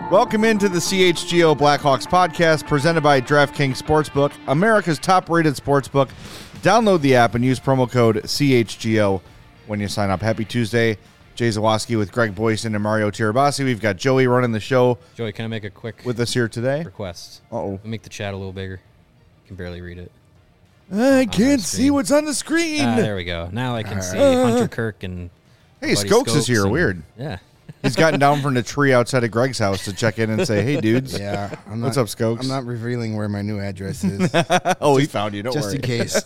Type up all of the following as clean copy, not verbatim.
Welcome into the CHGO Blackhawks podcast presented by DraftKings Sportsbook, America's top-rated sportsbook. Download the app and use promo code CHGO when you sign up. Happy Tuesday. Jay Zawaski with Greg Boyson and Mario Tirabassi. We've got Joey running the show. Joey, can I make a quick with us here today? Request? Uh-oh. Make the chat a little bigger. I can barely read it. I can't see what's on the screen. There we go. Now I can see Hunter Kirk and Hey, Skokes is here. Weird. Yeah. He's gotten down from the tree outside of Greg's house to check in and say, hey, dudes. Yeah. What's up, Skokes? I'm not revealing where my new address is. He found you. Don't just worry. in case.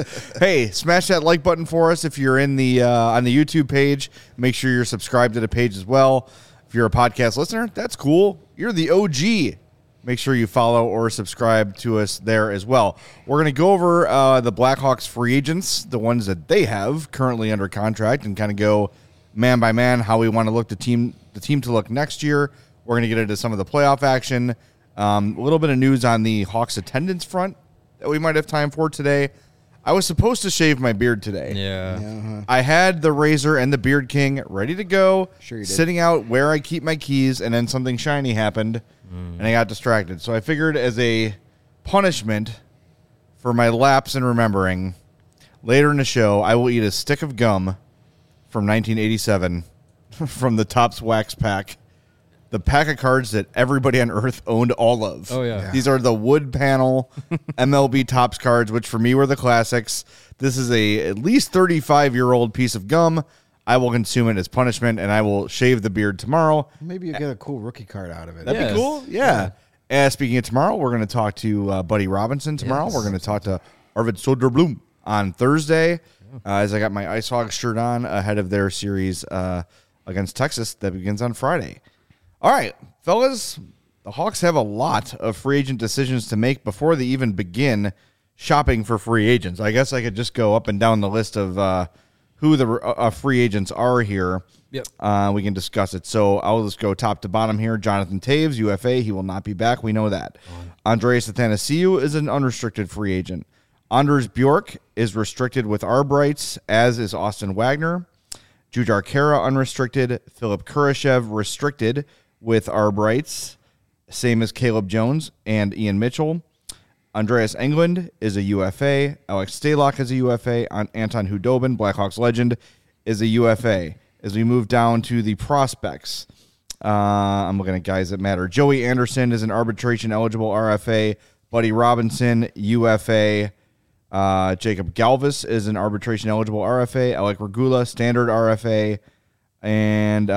Hey, smash that like button for us if you're in the on the YouTube page. Make sure you're subscribed to the page as well. If you're a podcast listener, that's cool. You're the OG. Make sure you follow or subscribe to us there as well. We're going to go over the Blackhawks free agents, the ones that they have currently under contract, and kind of go man by man how we want to look the team to look next year. We're going to get into some of the playoff action. A little bit of news on the Hawks attendance front that we might have time for today. I was supposed to shave my beard today. Yeah. I had the razor and the Beard King ready to go, Sure you did. sitting out where I keep my keys, and then something shiny happened, and I got distracted. So I figured as a punishment for my lapse in remembering, later in the show, I will eat a stick of gum from 1987 from the Topps Wax Pack. The pack of cards that everybody on Earth owned all of. Oh, yeah. These are the wood panel MLB Topps cards, which for me were the classics. This is a at least 35-year-old piece of gum. I will consume it as punishment, and I will shave the beard tomorrow. Maybe you get a cool rookie card out of it. That'd Yes. be cool. Yeah. Speaking of tomorrow, we're going to talk to Buddy Robinson tomorrow. Yes. We're going to talk to Arvid Soderblom on Thursday, as I got my Ice Hogs shirt on ahead of their series against Texas that begins on Friday. All right, fellas, the Hawks have a lot of free agent decisions to make before they even begin shopping for free agents. I guess I could just go up and down the list of who the free agents are here. Yep. We can discuss it. So I'll just go top to bottom here. Jonathan Taves, UFA. He will not be back. We know that. Andreas Athanasiou is an unrestricted free agent. Anders Bjork is restricted with arb rights, as is Austin Wagner. Jujhar Khaira, unrestricted. Philip Kurashev, restricted with arb rights, same as Caleb Jones and Ian Mitchell. Andreas Englund is a UFA. Alex Stalock is a UFA. Anton Hudobin, Blackhawks legend, is a UFA. As we move down to the prospects, I'm looking at guys that matter. Joey Anderson is an arbitration-eligible RFA. Buddy Robinson, UFA. Jacob Galvis is an arbitration-eligible RFA. Alec Regula, standard RFA. And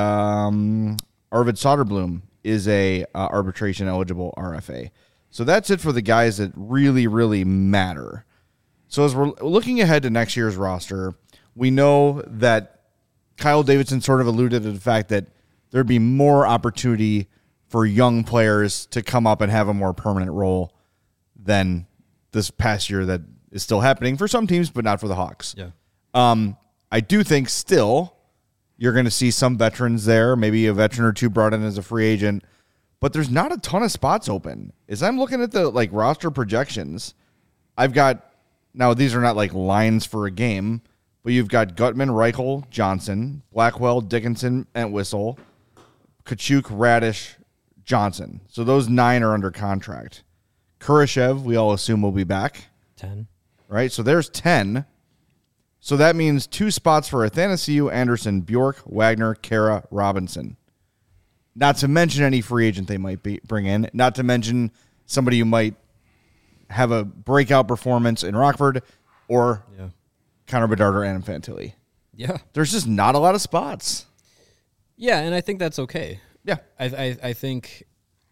Arvid Soderblom is a arbitration-eligible RFA. So that's it for the guys that really, really matter. So as we're looking ahead to next year's roster, we know that Kyle Davidson sort of alluded to the fact that there'd be more opportunity for young players to come up and have a more permanent role than this past year that is still happening for some teams, but not for the Hawks. Yeah. I do think still you're going to see some veterans there, maybe a veteran or two brought in as a free agent, but there's not a ton of spots open. As I'm looking at the roster projections, I've got, now these are not like lines for a game, but you've got Gutman, Reichel, Johnson, Blackwell, Dickinson, Entwistle, Kachuk, Radish, Johnson. So those 9 are under contract. Kurashev, we all assume will be back. 10. Right? So there's 10. So that means 2 spots for Athanasiou, Anderson, Bjork, Wagner, Khaira, Robinson. Not to mention any free agent they might bring in. Not to mention somebody who might have a breakout performance in Rockford or Connor Bedard or Adam Fantilli. Yeah. There's just not a lot of spots. Yeah, and I think that's okay. Yeah. I think,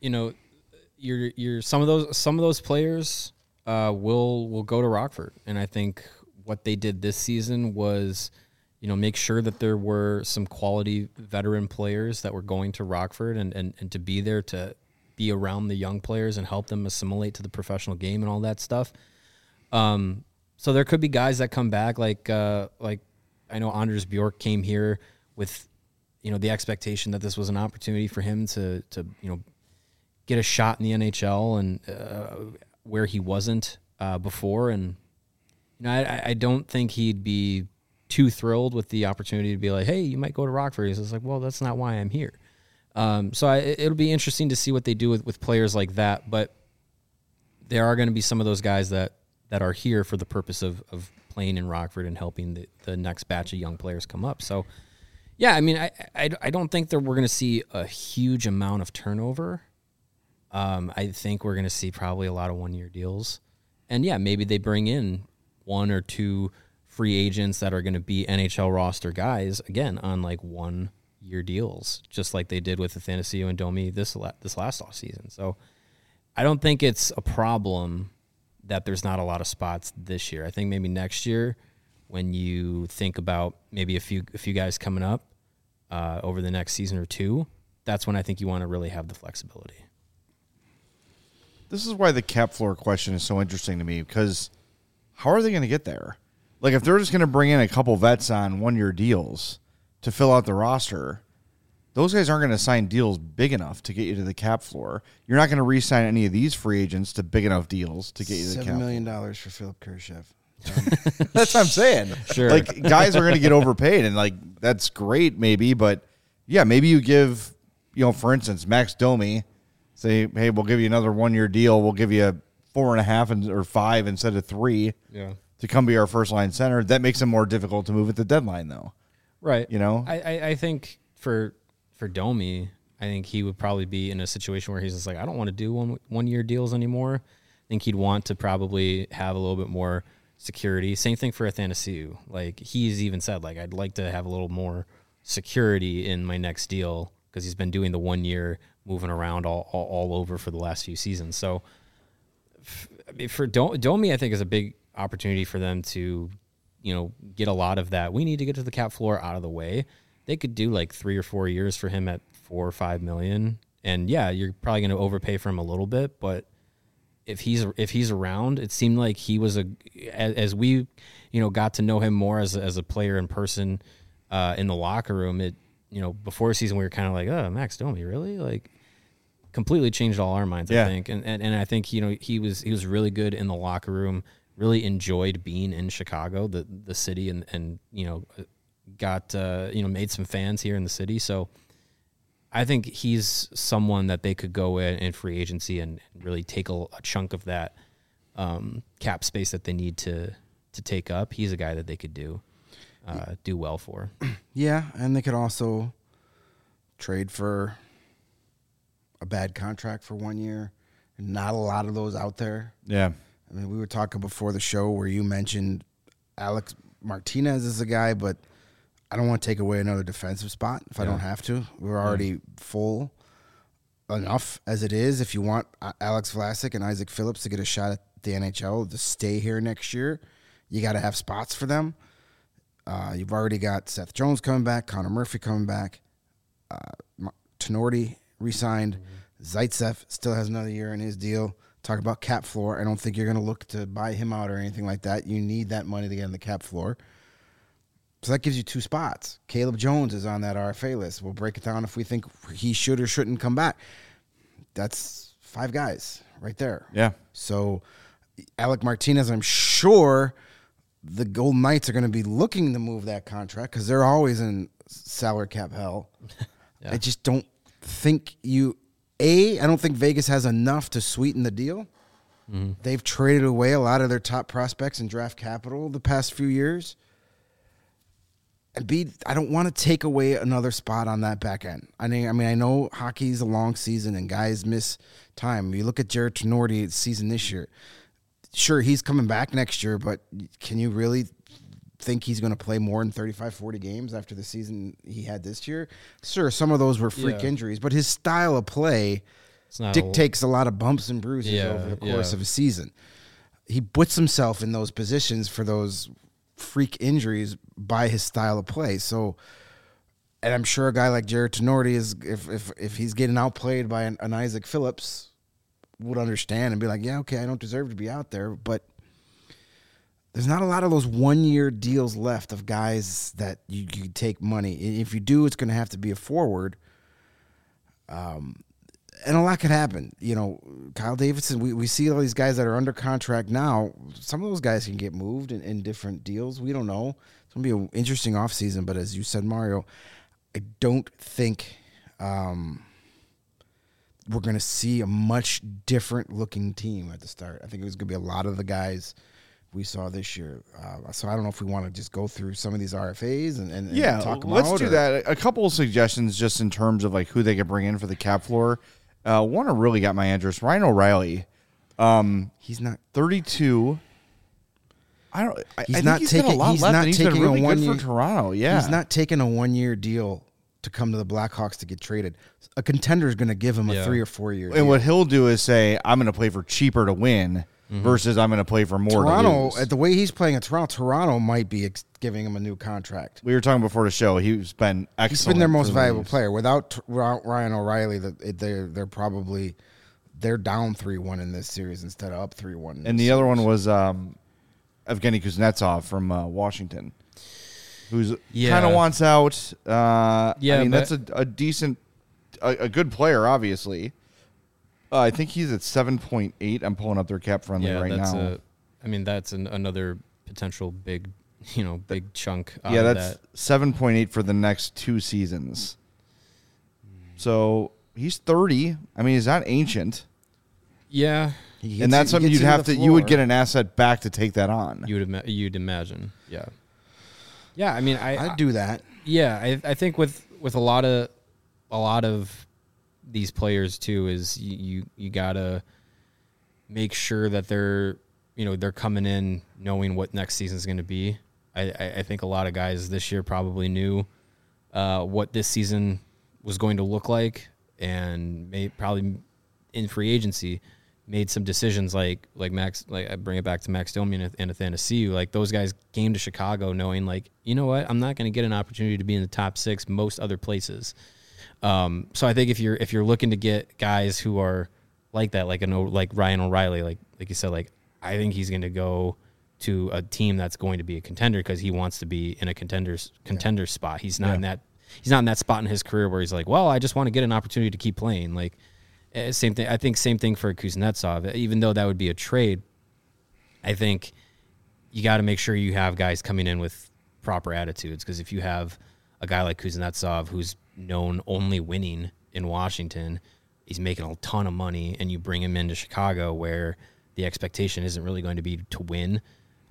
you're some of those players will go to Rockford, and I think what they did this season was, make sure that there were some quality veteran players that were going to Rockford and to be there to be around the young players and help them assimilate to the professional game and all that stuff. So there could be guys that come back, like I know Anders Bjork came here with, the expectation that this was an opportunity for him to get a shot in the NHL and where he wasn't before. And I don't think he'd be too thrilled with the opportunity to be like, hey, you might go to Rockford. He's just like, well, that's not why I'm here. So it'll be interesting to see what they do with players like that. But there are going to be some of those guys that are here for the purpose of playing in Rockford and helping the next batch of young players come up. So, yeah, I mean, I don't think that we're going to see a huge amount of turnover. I think we're going to see probably a lot of one-year deals. And, yeah, maybe they bring in one or two free agents that are going to be NHL roster guys, again, on like 1 year deals, just like they did with Athanasiou and Domi this last off season. So I don't think it's a problem that there's not a lot of spots this year. I think maybe next year, when you think about maybe a few guys coming up over the next season or two, that's when I think you want to really have the flexibility. This is why the cap floor question is so interesting to me, because how are they going to get there? Like, if they're just going to bring in a couple vets on 1 year deals to fill out the roster, those guys aren't going to sign deals big enough to get you to the cap floor. You're not going to re-sign any of these free agents to big enough deals to get you to the cap $7 floor. million for Philip Kurashev. That's what I'm saying. Sure. Like, guys are going to get overpaid, and, like, that's great maybe, but, yeah, maybe you give, for instance, Max Domi, say, hey, we'll give you another 1 year deal. We'll give you 4.5 or 5 instead of 3 to come be our first line center. That makes it more difficult to move at the deadline, though. Right. I think for Domi, I think he would probably be in a situation where he's just like, I don't want to do 1 year deals anymore. I think he'd want to probably have a little bit more security. Same thing for Athanasiou. Like, he's even said, like, I'd like to have a little more security in my next deal, because he's been doing the 1 year moving around all over for the last few seasons. So for Domi, I think is a big opportunity for them to, get a lot of that. We need to get to the cap floor out of the way. They could do like 3 or 4 years for him at $4 or $5 million. And yeah, you're probably going to overpay for him a little bit, but if he's around, it seemed like he was as we, got to know him more as a player in person, in the locker room. It, before the season we were kind of like, oh, Max Domi, really? Like, completely changed all our minds, I think. And I think, he was really good in the locker room, really enjoyed being in Chicago, the city, and got, made some fans here in the city. So I think he's someone that they could go in free agency and really take a chunk of that cap space that they need to take up. He's a guy that they could do well for. Yeah, and they could also trade for a bad contract for 1 year. Not a lot of those out there. Yeah. I mean, we were talking before the show where you mentioned Alex Martinez is a guy, but I don't want to take away another defensive spot if I don't have to. We're already full enough as it is. If you want Alex Vlasic and Isaac Phillips to get a shot at the NHL to stay here next year, you got to have spots for them. You've already got Seth Jones coming back, Connor Murphy coming back, Tenorti re-signed, Zaitsev still has another year in his deal. Talk about cap floor. I don't think you're going to look to buy him out or anything like that. You need that money to get on the cap floor. So that gives you 2 spots. Caleb Jones is on that RFA list. We'll break it down if we think he should or shouldn't come back. That's 5 guys right there. Yeah. So Alec Martinez, I'm sure the Golden Knights are going to be looking to move that contract because they're always in salary cap hell. I just don't think I don't think Vegas has enough to sweeten the deal. Mm-hmm. They've traded away a lot of their top prospects in draft capital the past few years. And B, I don't want to take away another spot on that back end. I mean, I know hockey's a long season and guys miss time. You look at Jared Tenorti's season this year. Sure, he's coming back next year, but can you really think he's going to play more than 35, 40 games after the season he had this year? Sure, some of those were freak injuries, but his style of play dictates a lot of bumps and bruises over the course of a season. He puts himself in those positions for those freak injuries by his style of play. So, and I'm sure a guy like Jared Tenorti is, if he's getting outplayed by an Isaac Phillips, would understand and be like, yeah, okay, I don't deserve to be out there. But there's not a lot of those 1 year deals left of guys that you take money. If you do, it's going to have to be a forward. And a lot could happen. Kyle Davidson, we see all these guys that are under contract now. Some of those guys can get moved in different deals. We don't know. It's going to be an interesting offseason. But as you said, Mario, I don't think we're going to see a much different looking team at the start. I think it was going to be a lot of the guys we saw this year. So I don't know if we want to just go through some of these RFAs and talk about. Let's do that. A couple of suggestions just in terms of like who they could bring in for the cap floor. One that really got my interest, Ryan O'Reilly. He's not 32. I don't. He's I not think taking. got a lot He's left, not and he's taking been really a good 1 year for Toronto. Yeah, he's not taking a 1 year deal to come to the Blackhawks to get traded. A contender is going to give him a 3 or 4 year. And what he'll do is say, "I'm going to play for cheaper to win." Versus I'm going to play for more. Toronto, to lose. at the way he's playing at Toronto might be giving him a new contract. We were talking before the show. He's been excellent. He's been their most for the valuable Leafs. player. Without Ryan O'Reilly, they're probably down 3-1 in this series instead of up 3-1. And the other one was Evgeny Kuznetsov from Washington, who's kind of wants out. I mean, that's a decent, a good player, obviously. I think he's at 7.8. I'm pulling up their cap friendly right now. That's another potential big chunk. Yeah, that's 7.8 for the next 2 seasons. So he's 30. I mean, he's not ancient. Yeah, And that's something you would get an asset back to take that on. you'd imagine. Yeah. Yeah, I mean, I'd do that. Yeah, I think with a lot of these players too is you gotta make sure that they're coming in knowing what next season is going to be. I think a lot of guys this year probably knew what this season was going to look like, and probably in free agency made some decisions like Max, like I bring it back to Max Domi and Athanasiou. Like those guys came to Chicago knowing like, you know what, I'm not going to get an opportunity to be in the top 6 most other places. So I think if you're looking to get guys who are like that, like Ryan O'Reilly, like you said, like I think he's going to go to a team that's going to be a contender because he wants to be in a contender spot. He's not in that spot in his career where he's like, well, I just want to get an opportunity to keep playing. Like same thing. I think same thing for Kuznetsov. Even though that would be a trade, I think you got to make sure you have guys coming in with proper attitudes, because if you have a guy like Kuznetsov who's known only winning in Washington, he's making a ton of money, and you bring him into Chicago where the expectation isn't really going to be to win.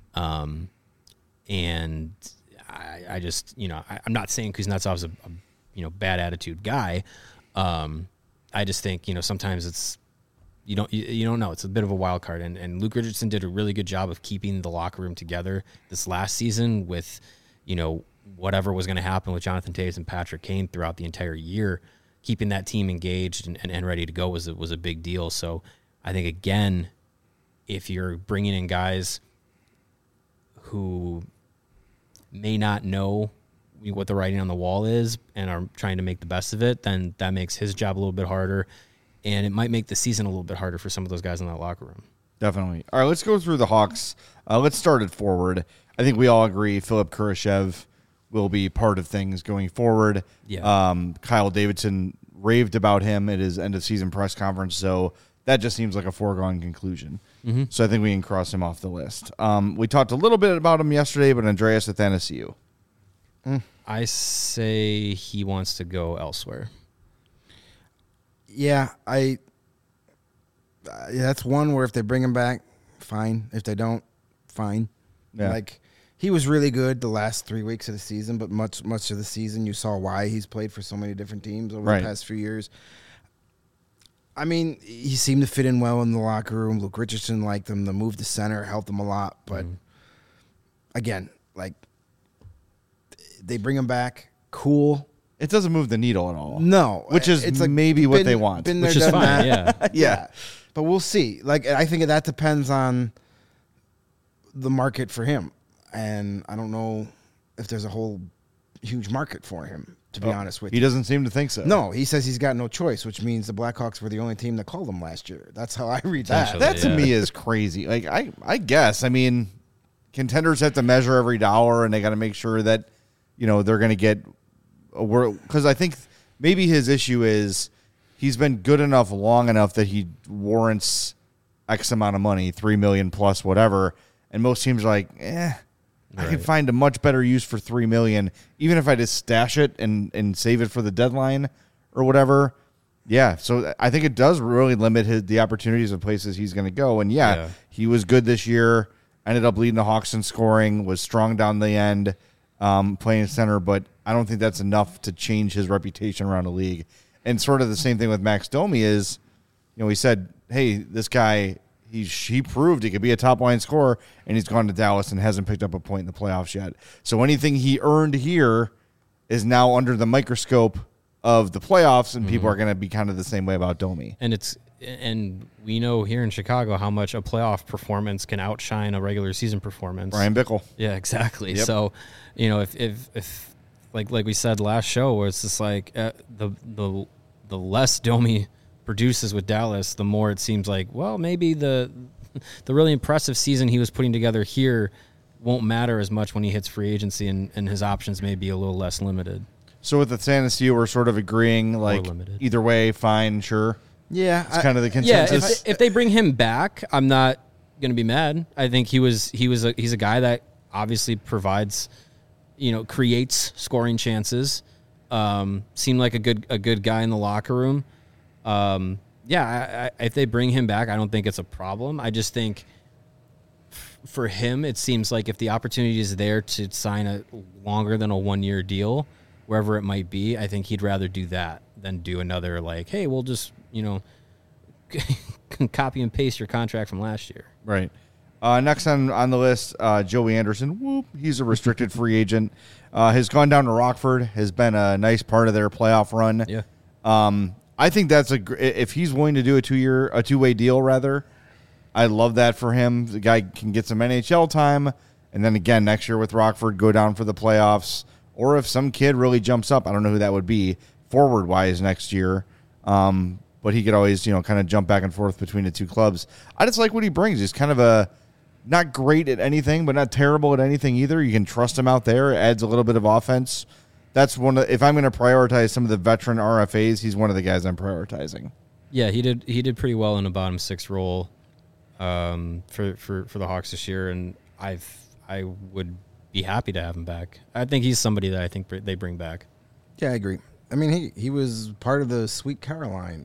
And I just, I'm not saying Kuznetsov's a bad attitude guy. I just think, sometimes it's, you don't know. It's a bit of a wild card. And Luke Richardson did a really good job of keeping the locker room together this last season with, whatever was going to happen with Jonathan Toews and Patrick Kane throughout the entire year. Keeping that team engaged and ready to go was a big deal. So I think, again, if you're bringing in guys who may not know what the writing on the wall is and are trying to make the best of it, then that makes his job a little bit harder, and it might make the season a little bit harder for some of those guys in that locker room. Definitely. All right, let's go through the Hawks. Let's start at forward. I think we all agree Philip Kurashev will be part of things going forward. Yeah. Kyle Davidson raved about him at his end-of-season press conference, so that just seems like a foregone conclusion. Mm-hmm. So I think we can cross him off the list. We talked a little bit about him yesterday, but Andreas Athanasiou. I say he wants to go elsewhere. Yeah, that's one where if they bring him back, fine. If they don't, fine. Yeah. Like, he was really good the last 3 weeks of the season, but much of the season you saw why he's played for so many different teams over the past few years. I mean, he seemed to fit in well in the locker room. Luke Richardson liked him. The move to center helped him a lot. But, again, like, they bring him back, cool. It doesn't move the needle at all. No. Which is it's like maybe what they want. Which is fine, yeah. But we'll see. Like, I think that depends on the market for him. And I don't know if there's a whole huge market for him, to be honest with you. He doesn't seem to think so. No, he says he's got no choice, which means the Blackhawks were the only team that called him last year. That's how I read that. That to me is crazy. Like, I guess, I mean, contenders have to measure every dollar, and they got to make sure that, they're going to get a word. Because I think maybe his issue is he's been good enough long enough that he warrants X amount of money, $3 million plus whatever. And most teams are like, I could find a much better use for $3 million, even if I just stash it and save it for the deadline, or whatever. Yeah, so I think it does really limit the opportunities of places he's going to go. And he was good this year. Ended up leading the Hawks in scoring. Was strong down the end, playing center. But I don't think that's enough to change his reputation around the league. And sort of the same thing with Max Domi is, he said, "Hey, this guy, he proved he could be a top line scorer, and he's gone to Dallas and hasn't picked up a point in the playoffs yet. So anything he earned here is now under the microscope of the playoffs, and people are going to be kind of the same way about Domi." And we know here in Chicago how much a playoff performance can outshine a regular season performance. Brian Bickle. Yeah, exactly. Yep. So, if like we said last show, where it's just like the less Domi produces with Dallas, the more it seems like, well, maybe the really impressive season he was putting together here won't matter as much when he hits free agency, and his options may be a little less limited. So with the Tennessee, we're sort of agreeing, like, either way, fine, sure. Yeah, it's kind of the consensus. Yeah, if they bring him back, I'm not going to be mad. I think he's a guy that obviously provides, creates scoring chances. Seemed like a good guy in the locker room. If they bring him back, I don't think it's a problem. I just think for him, it seems like if the opportunity is there to sign a longer than a 1-year deal, wherever it might be, I think he'd rather do that than do another, like, hey, we'll just, copy and paste your contract from last year. Right. Next on the list, Joey Anderson. Whoop, he's a restricted free agent. Has gone down to Rockford, has been a nice part of their playoff run. Yeah. I think that's if he's willing to do a two-way deal, rather, I love that for him. The guy can get some NHL time, and then again next year with Rockford, go down for the playoffs. Or if some kid really jumps up, I don't know who that would be, forward-wise next year. But he could always, kind of jump back and forth between the two clubs. I just like what he brings. He's kind of not great at anything, but not terrible at anything either. You can trust him out there. It adds a little bit of offense. That's if I'm going to prioritize some of the veteran RFAs, he's one of the guys I'm prioritizing. Yeah, he did pretty well in a bottom six role for the Hawks this year, and I would be happy to have him back. I think he's somebody that I think they bring back. Yeah, I agree. I mean, he was part of the Sweet Caroline,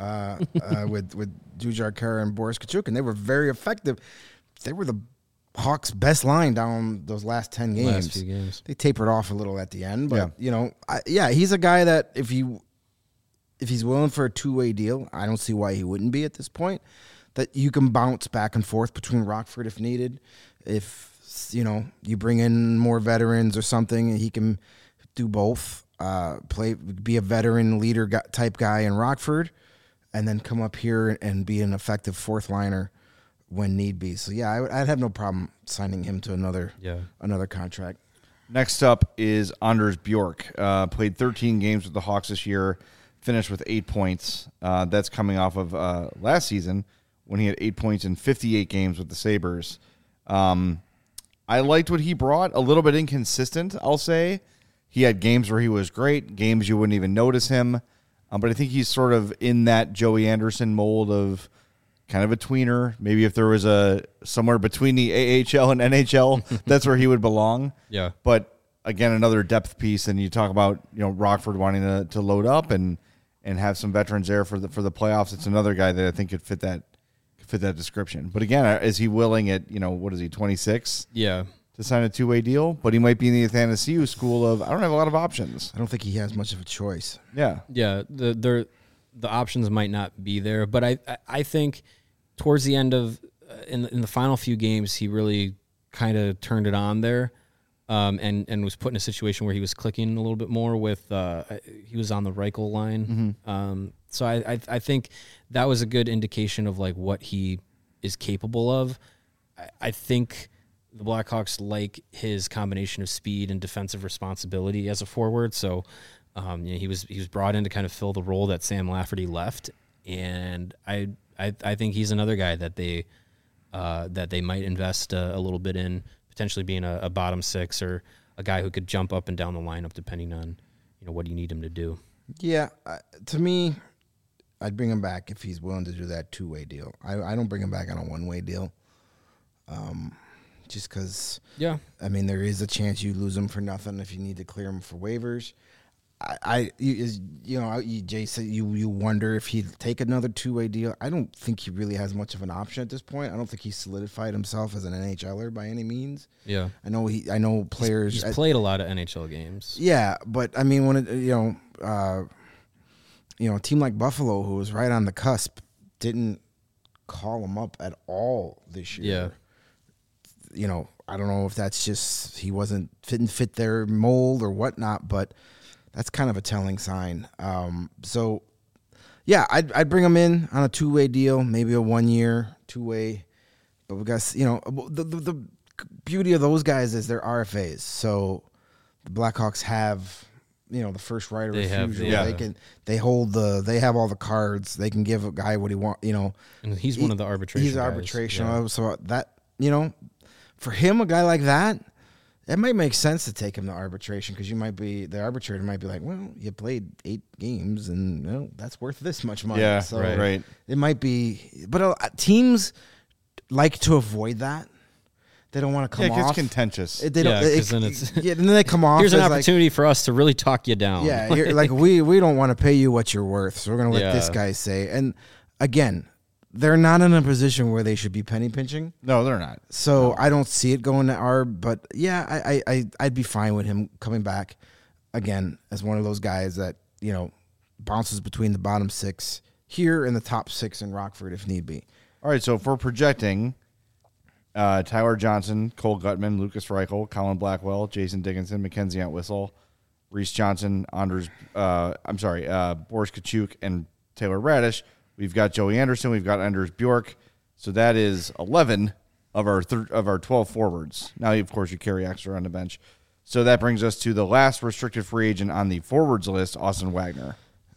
with Jujar Kara and Boris Kachuk, and they were very effective. They were the Hawks' best line down those last 10 games. Last few games. They tapered off a little at the end, but he's a guy that if he's willing for a two-way deal, I don't see why he wouldn't be at this point. That you can bounce back and forth between Rockford if needed. If you bring in more veterans or something, he can do both. Be a veteran leader type guy in Rockford, and then come up here and be an effective fourth liner when need be. So I'd have no problem signing him to another contract. Next up is Anders Bjork. Played 13 games with the Hawks this year, finished with 8 points. That's coming off of last season when he had 8 points in 58 games with the Sabres. I liked what he brought. A little bit inconsistent, I'll say. He had games where he was great, games you wouldn't even notice him. But I think he's sort of in that Joey Anderson mold of kind of a tweener. Maybe if there was somewhere between the AHL and NHL, that's where he would belong. Yeah. But again, another depth piece. And you talk about Rockford wanting to load up and have some veterans there for the playoffs. It's another guy that I think could fit that description. But again, is he willing at what is he, 26? Yeah. To sign a two-way deal, but he might be in the Athanasiu school of I don't have a lot of options. I don't think he has much of a choice. Yeah. The options might not be there, but I think towards the end of in the final few games, he really kind of turned it on there, and was put in a situation where he was clicking a little bit more with he was on the Reichel line. Mm-hmm. So I think that was a good indication of like what he is capable of. I think the Blackhawks like his combination of speed and defensive responsibility as a forward. So he was brought in to kind of fill the role that Sam Lafferty left, and I think he's another guy that they might invest a little bit in, potentially being a bottom six or a guy who could jump up and down the lineup depending on what you need him to do. Yeah, to me, I'd bring him back if he's willing to do that two-way deal. I don't bring him back on a one-way deal. Just because, I mean, there is a chance you lose him for nothing if you need to clear him for waivers. Jay said you wonder if he'd take another 2-way deal. I don't think he really has much of an option at this point. I don't think he's solidified himself as an NHLer by any means. Yeah, I know players. He's played a lot of NHL games. Yeah, but I mean, when a team like Buffalo, who was right on the cusp, didn't call him up at all this year. Yeah. I don't know if that's just he didn't fit their mold or whatnot, but that's kind of a telling sign. So, yeah, I'd bring him in on a 2-way deal, maybe a 1-year 2-way. But we got the beauty of those guys is they're RFAs. So the Blackhawks have the first right of refusal. They have all the cards. They can give a guy what he wants. And he's one of the arbitration. He's arbitration. Yeah. So that for him, a guy like that, it might make sense to take him to arbitration because the arbitrator might be like, well, you played 8 games and that's worth this much money. Yeah, so right. It might be, but teams like to avoid that. They don't want to come off. Yeah, it's contentious. They don't. Then they come off. Here's an opportunity for us to really talk you down. Yeah, we don't want to pay you what you're worth, so we're going to let this guy say. And again, they're not in a position where they should be penny pinching. No, they're not. So I don't see it going to ARB. But yeah, I'd be fine with him coming back again as one of those guys that bounces between the bottom 6 here and the top 6 in Rockford if need be. All right, so if we're projecting. Tyler Johnson, Cole Gutman, Lucas Reichel, Colin Blackwell, Jason Dickinson, Mackenzie Entwistle, Reese Johnson, Boris Kachuk, and Taylor Radish. We've got Joey Anderson. We've got Anders Bjork. So that is 11 of our 12 forwards. Now, of course, you carry extra on the bench. So that brings us to the last restricted free agent on the forwards list, Austin Wagner.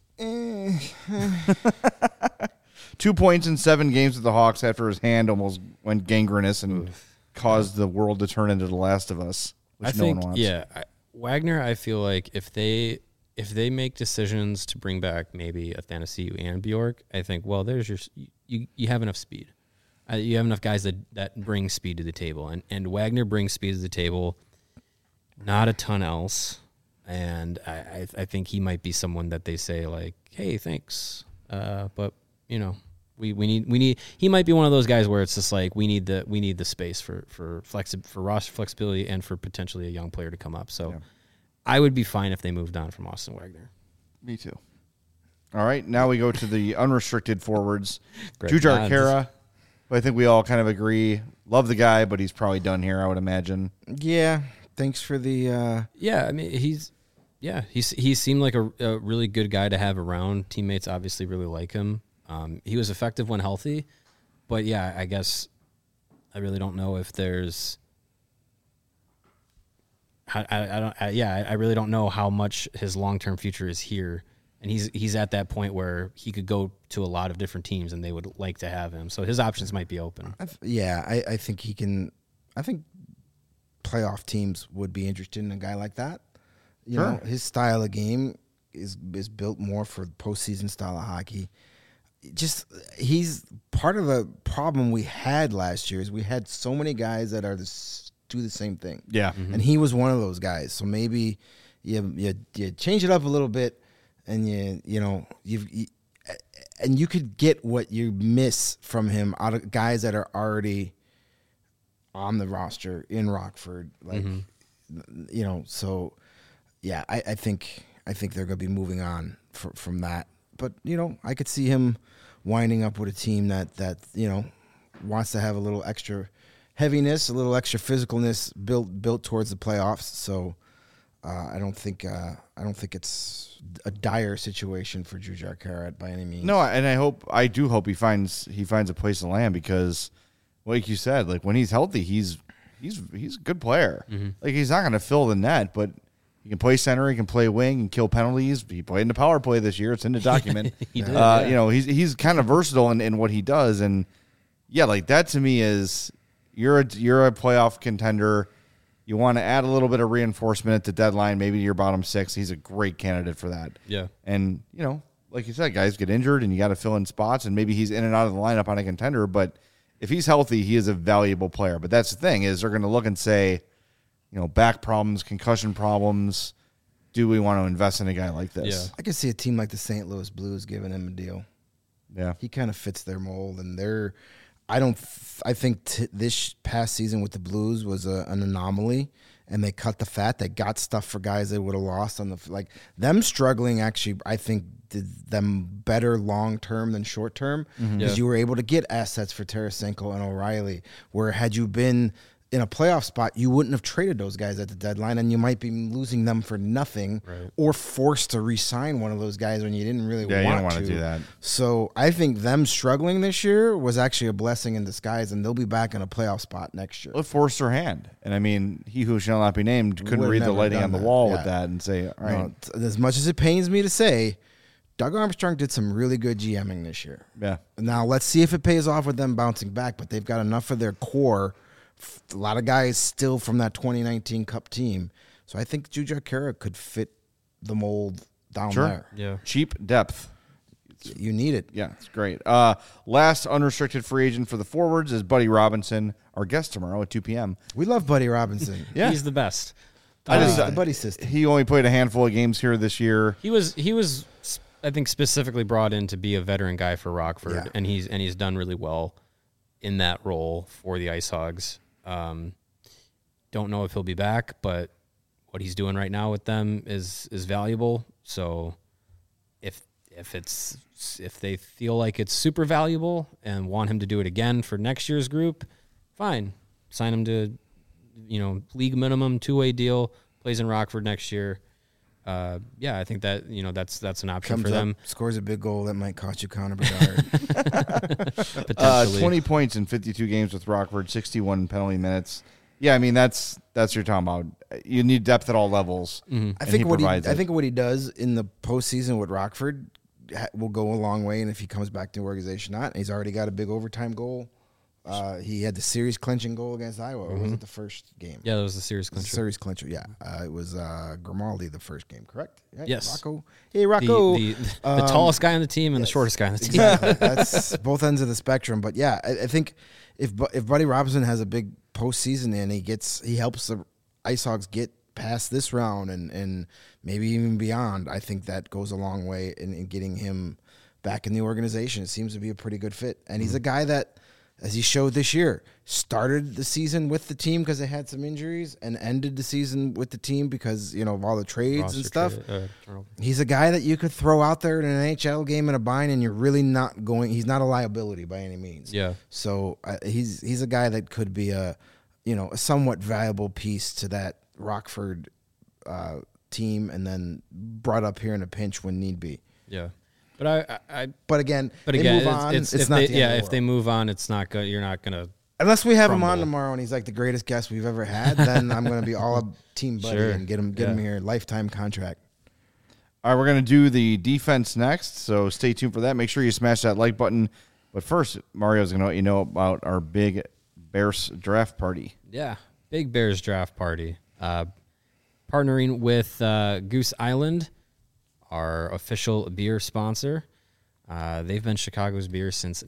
2 points in 7 games with the Hawks after his hand almost went gangrenous and caused the world to turn into The Last of Us, which no one wants. Yeah, Wagner, I feel like if they make decisions to bring back maybe Athanasiou and Bjork, I think, well, there's you have enough speed. You have enough guys that bring speed to the table. And Wagner brings speed to the table, not a ton else. And I think he might be someone that they say, like, hey, thanks. But, we need he might be one of those guys where it's just like we need the space for roster flexibility and for potentially a young player to come up. So I would be fine if they moved on from Austin Wagner. Me too. All right, now we go to the unrestricted forwards. Jujhar Khaira, who I think we all kind of agree. Love the guy, but he's probably done here, I would imagine. Yeah, thanks for the I mean he seemed like a really good guy to have around. Teammates obviously really like him. He was effective when healthy, but yeah, I guess I really don't know if there's. I really don't know how much his long-term future is here, and he's at that point where he could go to a lot of different teams, and they would like to have him. So his options might be open. I think he can. I think playoff teams would be interested in a guy like that. You know, his style of game is built more for postseason style of hockey. He's part of the problem we had last year is we had so many guys that do the same thing. Yeah. And he was one of those guys. So maybe you change it up a little bit and you could get what you miss from him out of guys that are already on the roster in Rockford. So yeah, I think they're going to be moving on from that. But, I could see him winding up with a team that wants to have a little extra heaviness, a little extra physicalness built towards the playoffs. So I don't think it's a dire situation for Jujhar Khaira by any means. No, and I do hope he finds a place to land because, like you said, like when he's healthy, he's a good player. Mm-hmm. Like he's not going to fill the net, but he can play center, he can play wing, and kill penalties. He played in the power play this year. It's in the document. He did, he's kind of versatile in what he does, and yeah, like that to me is you're a playoff contender. You want to add a little bit of reinforcement at the deadline, maybe to your bottom 6. He's a great candidate for that. Yeah, and like you said, guys get injured, and you got to fill in spots, and maybe he's in and out of the lineup on a contender. But if he's healthy, he is a valuable player. But that's the thing is they're going to look and say, back problems, concussion problems, do we want to invest in a guy like this? Yeah. I could see a team like the St. Louis Blues giving him a deal. Yeah. He kind of fits their mold, and I think this past season with the Blues was an anomaly, and they cut the fat. They got stuff for guys they would have lost on them struggling. Actually, I think did them better long term than short term because you were able to get assets for Tarasenko and O'Reilly. Where had you been in a playoff spot, you wouldn't have traded those guys at the deadline, and you might be losing them for nothing, or forced to re-sign one of those guys when you didn't really want to. Yeah, you don't want to do that. So I think them struggling this year was actually a blessing in disguise, and they'll be back in a playoff spot next year. Well, it forced her hand. And I mean, he who shall not be named couldn't Would've read the never lighting done on the that. wall Yeah. with that and say, all right. No, as much as it pains me to say, Doug Armstrong did some really good GMing this year. Yeah. Now, let's see if it pays off with them bouncing back, but they've got enough of their core. A lot of guys still from that 2019 Cup team. So I think Jujhar Khaira could fit the mold down there. Yeah. Cheap depth. You need it. Yeah, it's great. Last unrestricted free agent for the forwards is Buddy Robinson, our guest tomorrow at 2 p.m. We love Buddy Robinson. Yeah. He's the best. The Buddy system. He only played a handful of games here this year. He was I think specifically brought in to be a veteran guy for Rockford, Yeah. and he's done really well in that role for the Ice Hogs. Don't know if he'll be back, but what he's doing right now with them is valuable. So if they feel like it's super valuable and want him to do it again for next year's group, fine. Sign him to, league minimum 2-way deal, plays in Rockford next year. I think that, that's an option Comes for them. up, scores a big goal that might cost you Connor Bedard. Potentially. 20 points in 52 games with Rockford, 61 penalty minutes. Yeah, I mean, that's what you're talking about. You need depth at all levels. Mm-hmm. I think what he does in the postseason with Rockford will go a long way, and if he comes back to the organization, not. And he's already got a big overtime goal. He had the series clinching goal against Iowa. Or was it the first game? Yeah, that was the series clincher. Series clincher. Yeah, it was Grimaldi the first game. Correct? Right? Yes. Rocco. Hey, Rocco. The tallest guy on the team and the shortest guy on the team. Exactly. That's both ends of the spectrum. But yeah, I think if Buddy Robinson has a big postseason and he helps the Ice Hogs get past this round and maybe even beyond, I think that goes a long way in getting him back in the organization. It seems to be a pretty good fit. And he's a guy that, as he showed this year, started the season with the team because they had some injuries and ended the season with the team because, of all the trades and stuff. He's a guy that you could throw out there in an NHL game in a bind and you're really not going – he's not a liability by any means. Yeah. So he's a guy that could be a somewhat valuable piece to that Rockford team and then brought up here in a pinch when need be. Yeah. But But again, they move on. It's not the end of the if world. they move on, it's not good. You're not gonna. Unless we have him on crumble. tomorrow and he's like the greatest guest we've ever had, then I'm going to be all up Team Buddy Sure. and get him here, lifetime contract. All right, we're going to do the defense next, so stay tuned for that. Make sure you smash that like button. But first, Mario's going to let you know about our big Bears draft party. Yeah, big Bears draft party. Partnering with Goose Island, our official beer sponsor. They've been Chicago's beer since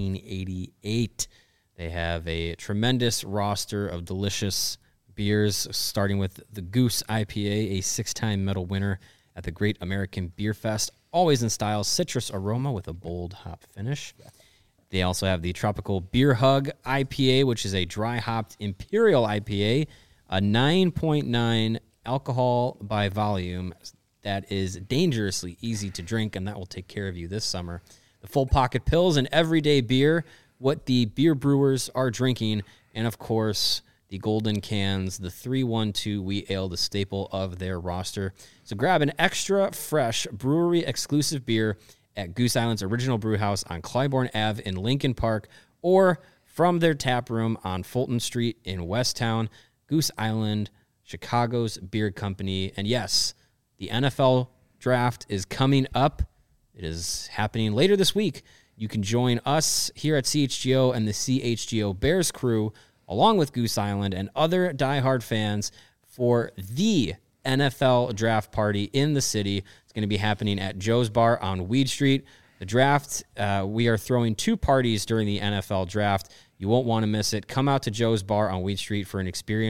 1988. They have a tremendous roster of delicious beers, starting with the Goose IPA, a 6-time medal winner at the Great American Beer Fest, always in style, citrus aroma with a bold hop finish. They also have the Tropical Beer Hug IPA, which is a dry-hopped Imperial IPA, a 9.9 alcohol by volume that is dangerously easy to drink, and that will take care of you this summer. The Full Pocket Pills, an everyday beer, what the beer brewers are drinking, and, of course, the golden cans, the 312 Wheat Ale, the staple of their roster. So grab an extra fresh brewery-exclusive beer at Goose Island's original brew house on Clybourne Ave in Lincoln Park, or from their tap room on Fulton Street in Westtown. Goose Island, Chicago's beer company. And yes, the NFL draft is coming up. It is happening later this week. You can join us here at CHGO and the CHGO Bears crew, along with Goose Island and other diehard fans, for the NFL draft party in the city. It's going to be happening at Joe's Bar on Weed Street. The draft, we are throwing 2 parties during the NFL draft. You won't want to miss it. Come out to Joe's Bar on Weed Street for an experience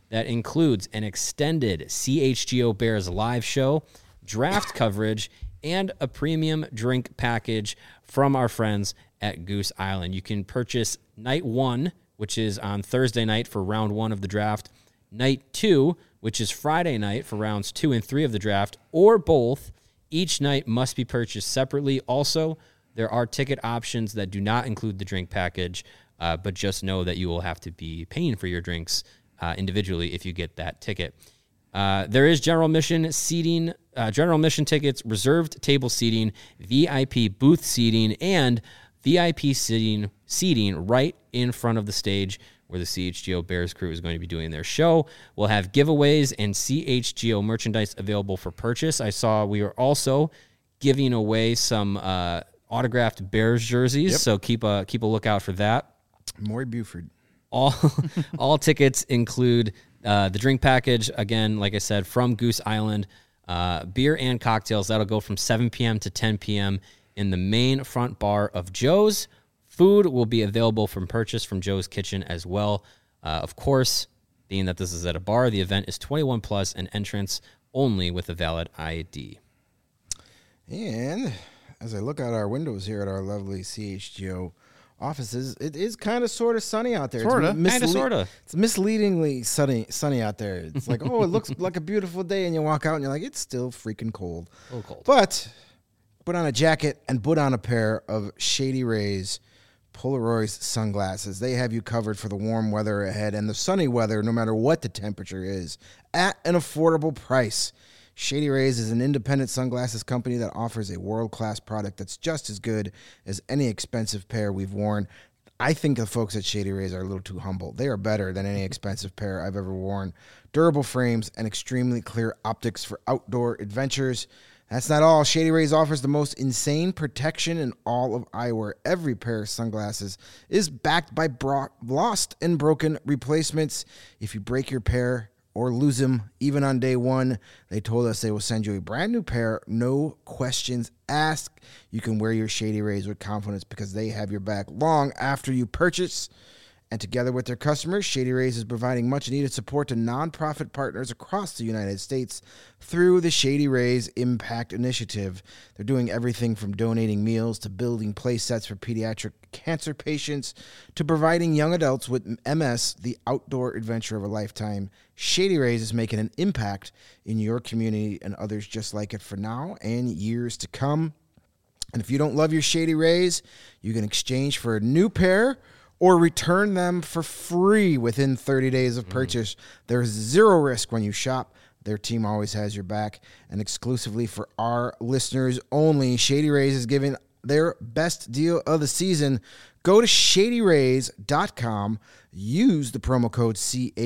that includes an extended CHGO Bears live show, draft coverage, and a premium drink package from our friends at Goose Island. You can purchase night 1, which is on Thursday night for round 1 of the draft, night 2, which is Friday night for rounds 2 and 3 of the draft, or both. Each night must be purchased separately. Also, there are ticket options that do not include the drink package, but just know that you will have to be paying for your drinks individually if you get that ticket. There is general admission seating, general admission tickets, reserved table seating, VIP booth seating, and VIP seating right in front of the stage where the CHGO Bears crew is going to be doing their show. We'll have giveaways and CHGO merchandise available for purchase. I saw we are also giving away some autographed Bears jerseys, so keep a lookout for that. Maury Buford. All tickets include the drink package, again, like I said, from Goose Island, beer and cocktails. That'll go from 7 p.m. to 10 p.m. in the main front bar of Joe's. Food will be available from purchase from Joe's Kitchen as well. Of course, being that this is at a bar, the event is 21 plus and entrance only with a valid ID. And as I look out our windows here at our lovely CHGO offices, it is kind of sort of sunny out there. Sorta. It's misleadingly sunny out there. It's like, oh, it looks like a beautiful day, and you walk out and you're like, it's still freaking cold. A little cold. But put on a jacket and put on a pair of Shady Rays Polaroid sunglasses. They have you covered for the warm weather ahead and the sunny weather, no matter what the temperature is, at an affordable price. Shady Rays is an independent sunglasses company that offers a world-class product that's just as good as any expensive pair we've worn. I think the folks at Shady Rays are a little too humble. They are better than any expensive pair I've ever worn. Durable frames and extremely clear optics for outdoor adventures. That's not all. Shady Rays offers the most insane protection in all of eyewear. Every pair of sunglasses is backed by lost and broken replacements. If you break your pair or lose them, even on day one, they told us they will send you a brand new pair, no questions asked. You can wear your Shady Rays with confidence because they have your back long after you purchase. And together with their customers, Shady Rays is providing much-needed support to nonprofit partners across the United States through the Shady Rays Impact Initiative. They're doing everything from donating meals to building play sets for pediatric cancer patients to providing young adults with MS the outdoor adventure of a lifetime. Shady Rays is making an impact in your community and others just like it for now and years to come. And if you don't love your Shady Rays, you can exchange for a new pair or return them for free within 30 days of purchase. There's zero risk when you shop. Their team always has your back. And exclusively for our listeners only, Shady Rays is giving their best deal of the season. Go to ShadyRays.com. Use the promo code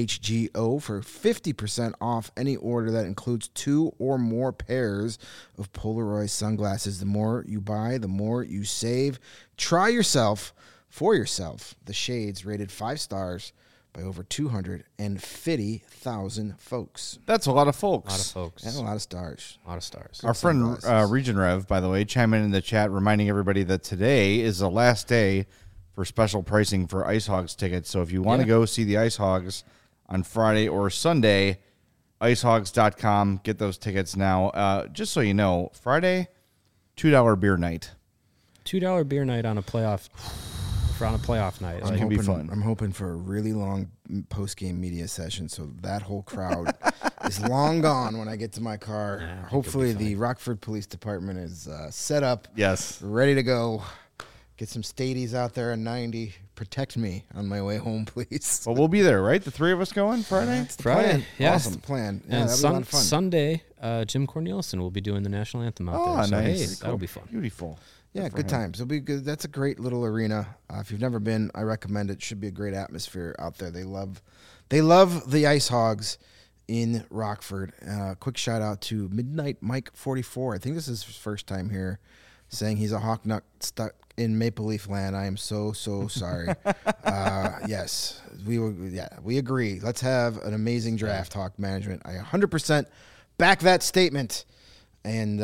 CHGO for 50% off any order that includes 2 or more pairs of Polaroid sunglasses. The more you buy, the more you save. Try for yourself, the shades rated 5 stars by over 250,000 folks. That's a lot of folks. A lot of folks. And a lot of stars. A lot of stars. Our friend Region Rev, by the way, chiming in the chat, reminding everybody that today is the last day for special pricing for Ice Hogs tickets. So if you want to go see the Ice Hogs on Friday or Sunday, icehogs.com. Get those tickets now. Just so you know, Friday, $2 beer night. $2 beer night on a playoff night. It's gonna be fun. I'm hoping for a really long post-game media session, so that whole crowd is long gone when I get to my car. Hopefully, the Rockford Police Department is set up, ready to go. Get some stadies out there on 90. Protect me on my way home, please. Well, we'll be there, right? The 3 of us going Friday? That's the plan. Yeah. Awesome. That's the plan. Yeah, and that'll be a lot of fun. Sunday, Jim Cornelison will be doing the national anthem out there. So, nice. hey, that'll be fun. Beautiful. Yeah, good times. It'll be good. That's a great little arena. If you've never been, I recommend it. Should be a great atmosphere out there. They love the Ice Hogs in Rockford. Quick shout out to Midnight Mike 44. I think this is his first time here, saying he's a Hawk Nut stuck in Maple Leaf land. I am so sorry. Yes, we agree. Let's have an amazing draft, Hawk Management. I 100% back that statement. And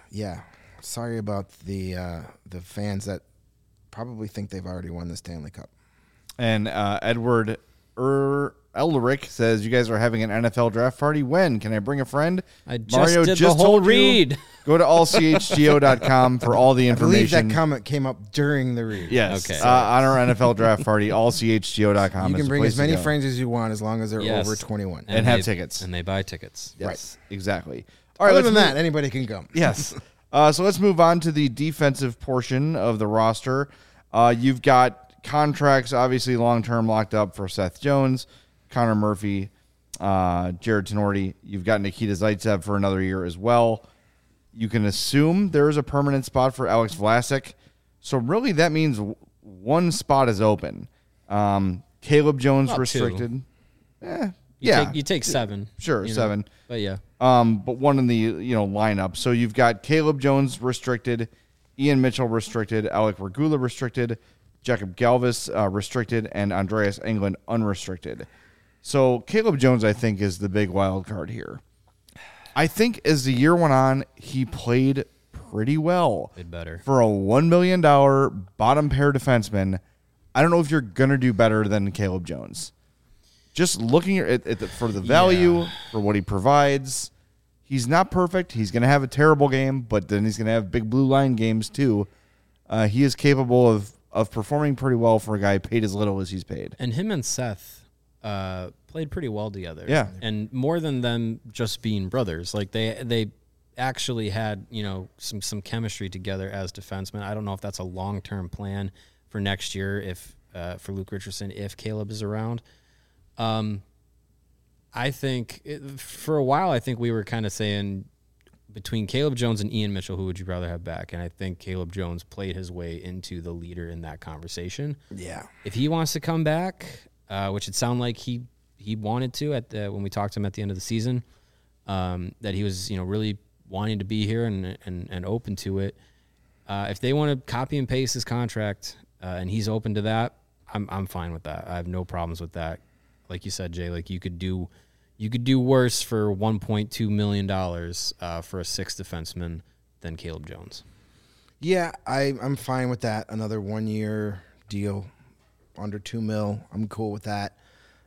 sorry about the fans that probably think they've already won the Stanley Cup. And Edward Eldrick says, you guys are having an NFL draft party. When? Can I bring a friend? I just did the whole read. Go to allchgo.com for all the I believe information. that comment came up during the read. Yes. Okay. On our NFL draft party, allchgo.com. You is can the bring place as to many go. friends as you want as long as they're Yes. over 21. And have tickets. And they buy tickets. Yes, exactly. All right, Other let's than move- that, anybody can go. Yes. So let's move on to the defensive portion of the roster. You've got contracts, obviously long-term locked up for Seth Jones, Connor Murphy, Jared Tenorti. You've got Nikita Zaitsev for another year as well. You can assume there is a permanent spot for Alex Vlasic. So really that means one spot is open. Caleb Jones About restricted. You take 7. Sure, you know, 7. But yeah. But one in the lineup. So you've got Caleb Jones restricted, Ian Mitchell restricted, Alec Regula restricted, Jacob Galvis restricted, and Andreas Englund unrestricted. So Caleb Jones, I think, is the big wild card here. I think as the year went on, he played pretty well. Played better. For a $1 million bottom pair defenseman, I don't know if you're going to do better than Caleb Jones. Just looking for the value, for what he provides, he's not perfect. He's going to have a terrible game, but then he's going to have big blue line games too. He is capable of performing pretty well for a guy paid as little as he's paid. And him and Seth played pretty well together. Yeah. And more than them just being brothers, like they actually had, some chemistry together as defensemen. I don't know if that's a long-term plan for next year if for Luke Richardson if Caleb is around. I think for a while I think we were kind of saying between Caleb Jones and Ian Mitchell, who would you rather have back? And I think Caleb Jones played his way into the leader in that conversation. Yeah. If he wants to come back, which it sounded like he wanted to when we talked to him at the end of the season, that he was really wanting to be here and open to it. If they want to copy and paste his contract and he's open to that, I'm fine with that. I have no problems with that. Like you said, Jay, like you could do worse for $1.2 million for a sixth defenseman than Caleb Jones. Yeah, I'm fine with that. Another 1-year deal, under $2 million. I'm cool with that.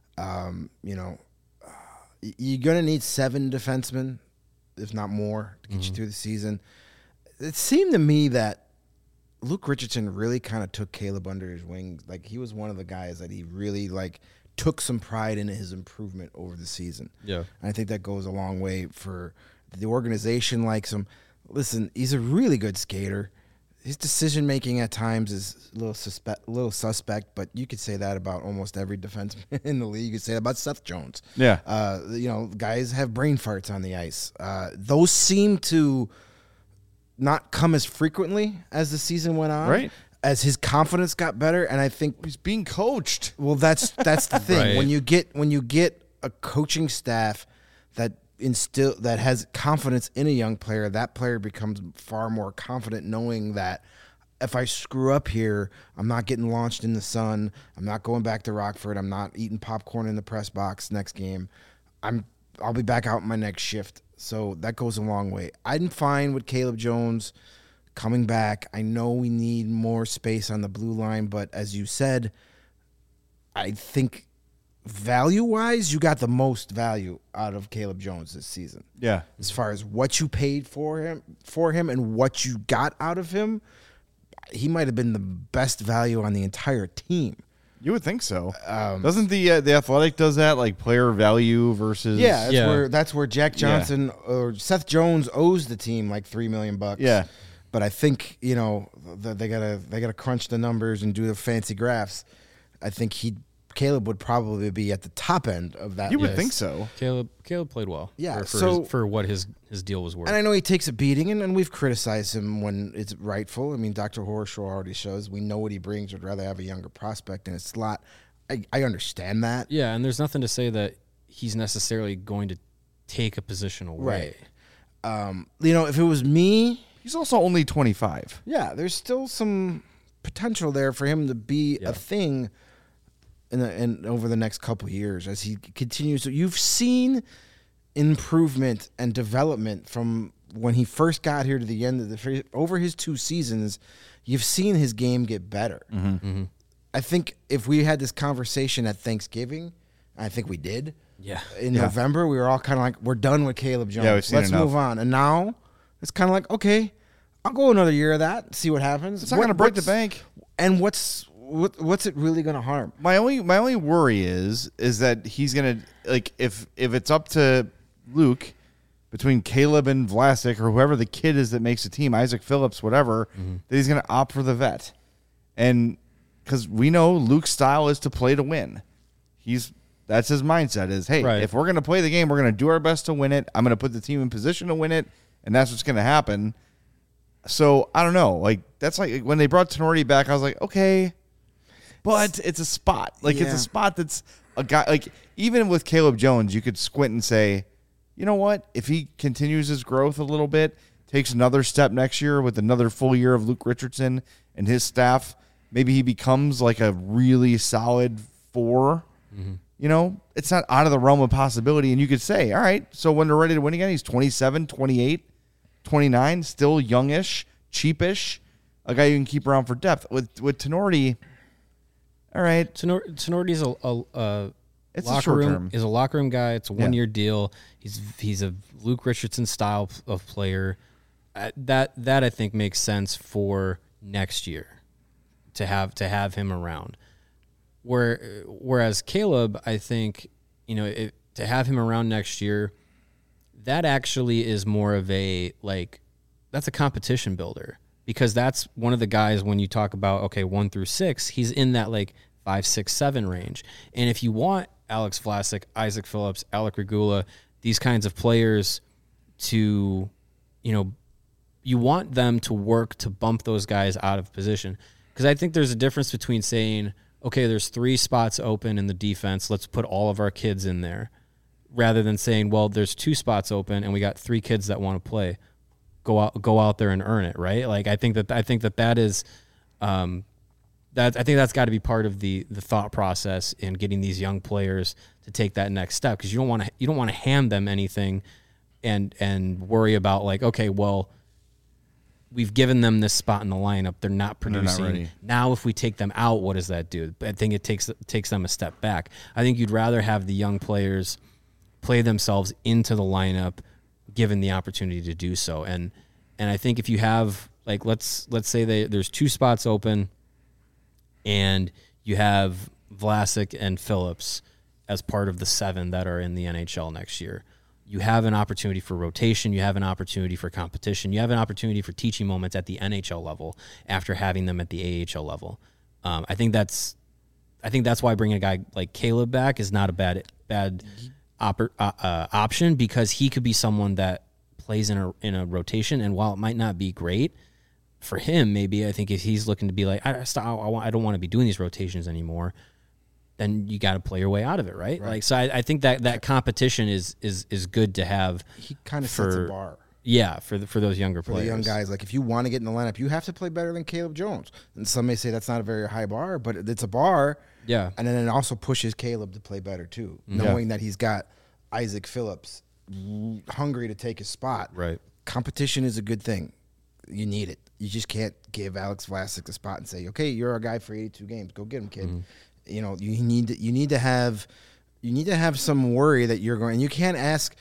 You're gonna need 7 defensemen, if not more, to get you through the season. It seemed to me that Luke Richardson really kind of took Caleb under his wing. Like he was one of the guys that he really took some pride in his improvement over the season. Yeah. And I think that goes a long way for the organization. Likes him. Listen, he's a really good skater. His decision making at times is a little suspect, but you could say that about almost every defenseman in the league. You could say that about Seth Jones. Yeah. Guys have brain farts on the ice. Those seem to not come as frequently as the season went on. Right. As his confidence got better, and I think He's being coached. well, that's the thing. Right. When you get a coaching staff that has confidence in a young player, that player becomes far more confident knowing that if I screw up here, I'm not getting launched in the sun. I'm not going back to Rockford. I'm not eating popcorn in the press box next game. I'll be back out in my next shift. So that goes a long way. I'm fine with Caleb Jones coming back. I know we need more space on the blue line, but as you said, I think value-wise, you got the most value out of Caleb Jones this season. Yeah. As far as what you paid for him and what you got out of him, he might have been the best value on the entire team. You would think so. Doesn't the Athletic does that, like player value versus? Yeah, that's where Jack Johnson or Seth Jones owes the team like $3 million. Yeah. But I think they gotta crunch the numbers and do the fancy graphs. I think Caleb would probably be at the top end of that. You would list. think so. Caleb played well. Yeah, for what his deal was worth. And I know he takes a beating, and we've criticized him when it's rightful. I mean, Dr. Horshaw already shows we know what he brings. Would rather have a younger prospect in his slot. I understand that. Yeah, and there's nothing to say that he's necessarily going to take a position away. Right. If it was me, He's also only 25. yeah, there's still some potential there for him to be a thing in over the next couple of years as he continues. You've seen improvement and development from when he first got here to the end of over his 2 seasons. You've seen his game get better. I think if we had this conversation at Thanksgiving I think we did. Yeah. In November, we were all kind of like, we're done with Caleb Jones. Yeah, we've seen Let's enough. move on. And now it's kind of like, okay, I'll go another year of that, see what happens. It's not going to break the bank. And what's it really going to harm? My only worry is that he's going to, like, if it's up to Luke between Caleb and Vlasic or whoever the kid is that makes the team, Isaac Phillips, whatever, that he's going to opt for the vet. And because we know Luke's style is to play to win. That's his mindset is, hey, if we're going to play the game, we're going to do our best to win it. I'm going to put the team in position to win it, and that's what's going to happen. So, I don't know. Like, that's like when they brought Tenorti back, I was like, okay, but it's a spot. Like, it's a spot that's a guy. Like, even with Caleb Jones, you could squint and say, you know what? If he continues his growth a little bit, takes another step next year with another full year of Luke Richardson and his staff, maybe he becomes like a really solid 4. You know, it's not out of the realm of possibility. And you could say, all right, so when they're ready to win again, he's 27, 28, 29, still youngish, cheapish, a guy you can keep around for depth. With Tenorti, all right. Tenorti's It's locker a short room, term. is a locker room guy. It's a 1-year deal. He's a Luke Richardson style of player. That I think makes sense for next year to have him around. Whereas Caleb, I think, to have him around next year, that actually is more of a, like, that's a competition builder, because that's one of the guys when you talk about, okay, 1 through 6, he's in that like 5, 6, 7 range. And if you want Alex Vlasic, Isaac Phillips, Alec Regula, these kinds of players to, you want them to work to bump those guys out of position. Because I think there's a difference between saying, okay, there's 3 spots open in the defense, let's put all of our kids in there, rather than saying, well, there's 2 spots open and we got 3 kids that want to play. Go out there and earn it, right? Like, I think that is I think that's got to be part of the thought process in getting these young players to take that next step, because you don't want to hand them anything and worry about, like, okay, well, we've given them this spot in the lineup, they're not producing. They're not ready. Now, if we take them out, what does that do? I think it takes them a step back. I think you'd rather have the young players play themselves into the lineup, given the opportunity to do so. And I think if you have, like, let's say there's 2 spots open, and you have Vlasic and Phillips as part of the 7 that are in the NHL next year, you have an opportunity for rotation. You have an opportunity for competition. You have an opportunity for teaching moments at the NHL level after having them at the AHL level. I think that's why bringing a guy like Caleb back is not a bad option, because he could be someone that plays in a rotation. And while it might not be great for him, maybe, I think if he's looking to be like, I don't want to be doing these rotations anymore, then you got to play your way out of it, right? Like, so I think that competition is good to have. He kind of sets a bar. Yeah, for those younger For players. the young guys, like, if you want to get in the lineup, you have to play better than Caleb Jones. And some may say that's not a very high bar, but it's a bar. Yeah. And then it also pushes Caleb to play better too, knowing that he's got Isaac Phillips hungry to take his spot. Right. Competition is a good thing. You need it. You just can't give Alex Vlasic the spot and say, okay, you're our guy for 82 games. Go get him, kid. You need to have some worry that you're going, and you can't ask,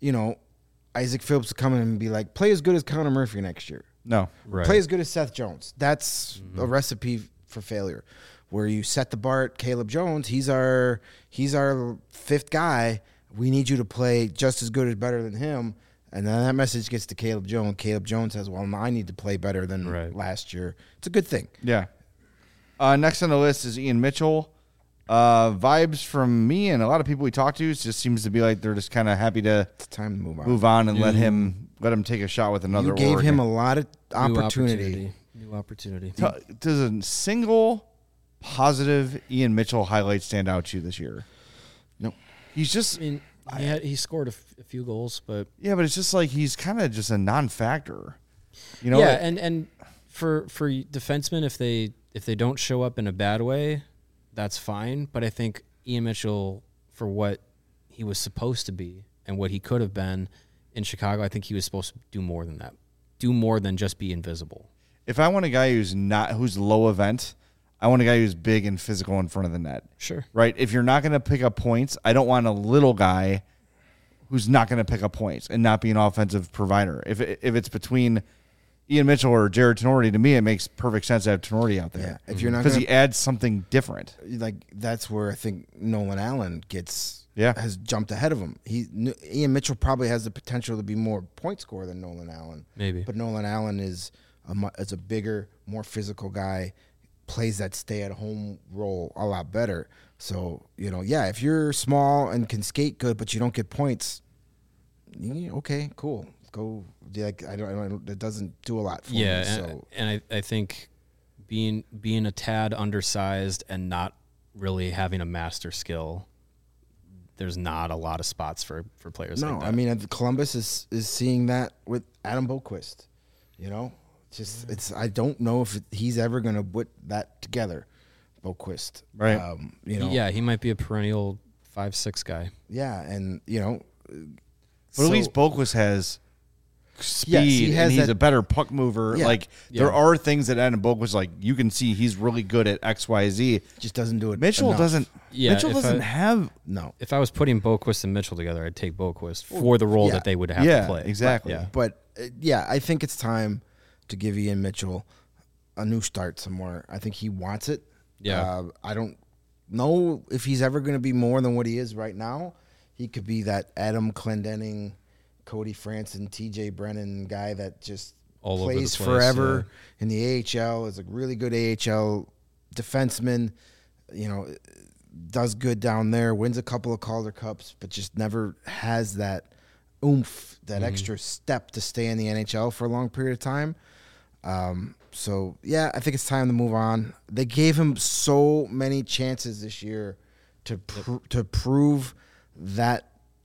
Isaac Phillips to come in and be like, play as good as Connor Murphy next year. No. Right. Play as good as Seth Jones. That's a recipe for failure. Where you set the bar at Caleb Jones, he's our 5th guy. We need you to play just as good as better than him. And then that message gets to Caleb Jones. Caleb Jones says, well, I need to play better than last year. It's a good thing. Yeah. Next on the list is Ian Mitchell. Vibes from me and a lot of people we talk to, it just seems to be like they're just kind of happy to It's time to move on and let him take a shot with another. You gave org. him a lot of opportunity. New opportunity. Does a single positive Ian Mitchell highlight stand out to you this year? No. He's just. I mean, he scored a few goals, but Yeah, but it's just like he's kind of just a non-factor. Yeah, and for defensemen, if they don't show up in a bad way, that's fine. But I think Ian Mitchell, for what he was supposed to be and what he could have been in Chicago, I think he was supposed to do more than that. Do more than just be invisible. If I want a guy who's low event, I want a guy who's big and physical in front of the net. Sure. Right? If you're not going to pick up points, I don't want a little guy who's not going to pick up points and not be an offensive provider. If it's between Ian Mitchell or Jared Tenorti, to me, it makes perfect sense to have Tenorti out there. Yeah, if you're not because he adds something different. like that's where I think Nolan Allen Yeah. has jumped ahead of him. Ian Mitchell probably has the potential to be more point scorer than Nolan Allen. Maybe. But Nolan Allen is a bigger, more physical guy, plays that stay-at-home role a lot better. So, if you're small and can skate good, but you don't get points, okay, cool. Go. Like I don't. It doesn't do a lot for me. And I think being a tad undersized and not really having a master skill, there's not a lot of spots for players like that. I mean, Columbus is seeing that with Adam Boqvist. I don't know if he's ever going to put that together, Boqvist. Right. Yeah, he might be a perennial 5'6" guy. Yeah, and But at least Boqvist has speed, Yes, he has and he's that- a better puck mover. Yeah. There are things that Adam Boqvist, you can see he's really good at X, Y, Z. just doesn't do it. Mitchell enough. doesn't. Yeah, Mitchell if doesn't I- have. No, If I was putting Boqvist and Mitchell together, I'd take Boqvist for the role yeah. that they would have Yeah, to play. exactly. Yeah. but I think it's time to give Ian Mitchell a new start somewhere. I think he wants it. Yeah. I don't know if he's ever going to be more than what he is right now. He could be that Adam Clendenning, Cody Franson, TJ Brennan guy that just All over the plays place, forever in the AHL, is a really good AHL defenseman, does good down there, wins a couple of Calder Cups, but just never has that oomph, that extra step to stay in the NHL for a long period of time. I think it's time to move on. They gave him so many chances this year to prove that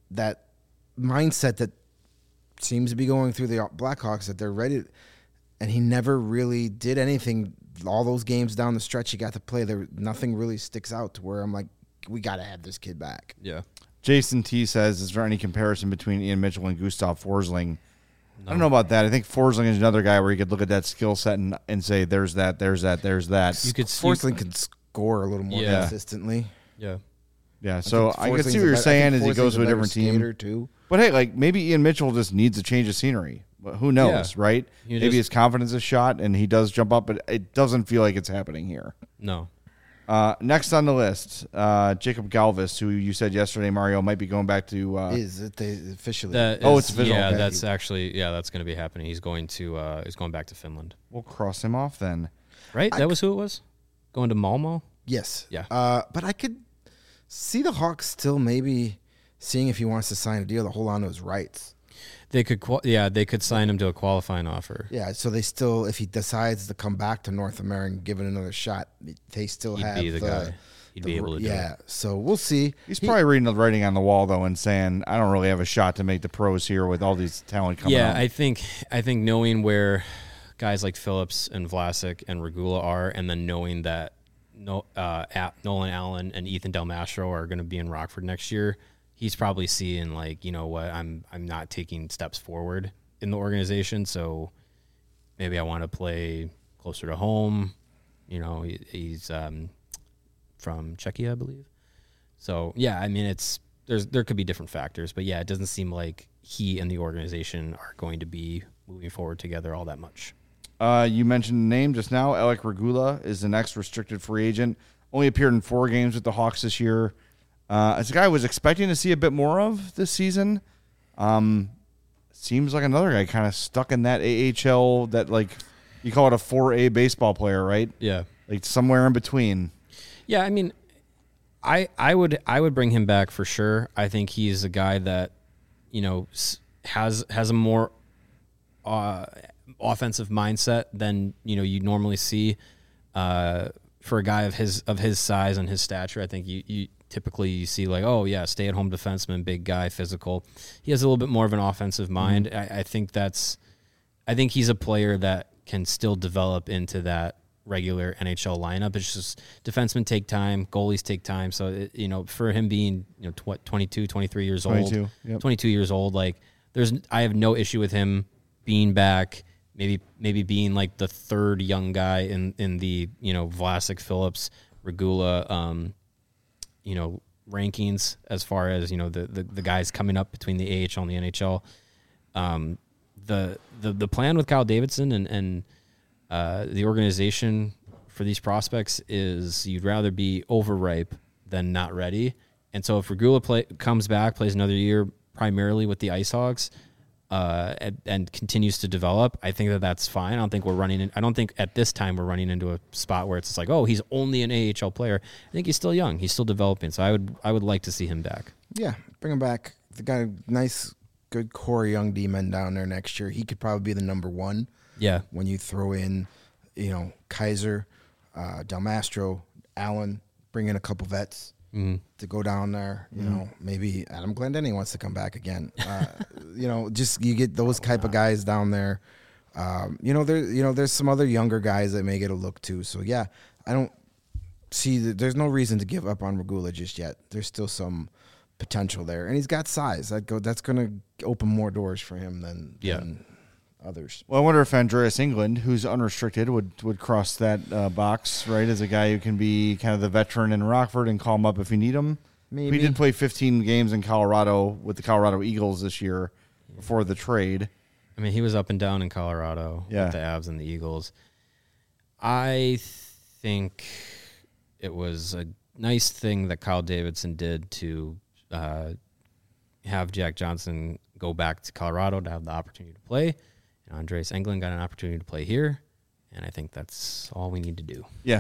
mindset that seems to be going through the Blackhawks, that they're ready, and he never really did anything. All those games down the stretch he got to play, nothing really sticks out to where I'm like, we got to have this kid back. Yeah. Jason T says, is there any comparison between Ian Mitchell and Gustav Forsling? I don't know about that. I think Forsling is another guy where you could look at that skill set and say, there's that. You could Forsling can score a little more consistently. Yeah. Yeah, so I can Forsling's see what you're saying as he Forsling's goes to a better different team. skater, too. But hey, maybe Ian Mitchell just needs a change of scenery. Who knows, Yeah. right? You Maybe just- his confidence is shot and he does jump up, but it doesn't feel like it's happening here. No. Next on the list, Jacob Galvis, who you said yesterday, Mario, might be going back to. Is it officially? it's official. Yeah, Okay. that's actually that's going to be happening. He's going back to Finland. We'll cross him off then. Right? That was who it was? Going to Malmo? Yes. Yeah. But I could see the Hawks still maybe seeing if he wants to sign a deal to hold on to his rights. They could they could sign him to a qualifying offer. Yeah, so they still, if he decides to come back to North America and give it another shot, they still He'd have be the guy. He'd be able to do yeah, it. so we'll see. He's probably reading the writing on the wall, though, and saying, I don't really have a shot to make the pros here with all these talent coming Yeah, up. I think knowing where guys like Phillips and Vlasic and Regula are, and then knowing that Nolan Allen and Ethan Del Mastro are going to be in Rockford next year, he's probably seeing I'm not taking steps forward in the organization, so maybe I want to play closer to home. He's from Czechia, I believe. So yeah, I mean there could be different factors, but yeah, it doesn't seem like he and the organization are going to be moving forward together all that much. You mentioned the name just now. Alec Regula is the next restricted free agent. Only appeared in 4 games with the Hawks this year. It's a guy I was expecting to see a bit more of this season. Seems like another guy kind of stuck in that AHL, that you call it a 4A baseball player, right? Yeah. Somewhere in between. Yeah, I mean, I would bring him back for sure. I think he's a guy that has a more offensive mindset than you normally see for a guy of his size and his stature. I think you typically see stay at home defenseman, big guy, physical. He has a little bit more of an offensive mind. I think he's a player that can still develop into that regular NHL lineup. It's just defensemen take time, goalies take time. So, for him being, 22, 23 years old, 22, yep. 22 years old, I have no issue with him being back maybe being like the third young guy in the Vlasic, Phillips, Regula, rankings as far as the guys coming up between the AHL and the NHL. The plan with Kyle Davidson and the organization for these prospects is you'd rather be overripe than not ready. And so if Regula comes back, plays another year primarily with the Ice Hogs, and continues to develop, I think that's fine. I don't think at this time we're running into a spot where it's just like, oh, he's only an AHL player. I think he's still young. He's still developing. So I would like to see him back. Yeah, bring him back. They got a nice, good core young D-men down there next year. He could probably be the number one. Yeah. When you throw in, Kaiser, Del Mastro, Allen, bring in a couple vets to go down there. Maybe Adam Glendenny wants to come back again. Just you get those type of guys down there. There's some other younger guys that may get a look too. So yeah, I don't see that. There's no reason to give up on Regula just yet. There's still some potential there, and he's got size. That's going to open more doors for him than others. Well, I wonder if Andreas England, who's unrestricted, would cross that box, right, as a guy who can be kind of the veteran in Rockford and call him up if you need him. Maybe. He did play 15 games in Colorado with the Colorado Eagles this year before the trade. I mean, he was up and down in Colorado with the Avs and the Eagles. I think it was a nice thing that Kyle Davidson did to have Jack Johnson go back to Colorado to have the opportunity to play. And Andreas Englund got an opportunity to play here, and I think that's all we need to do. Yeah.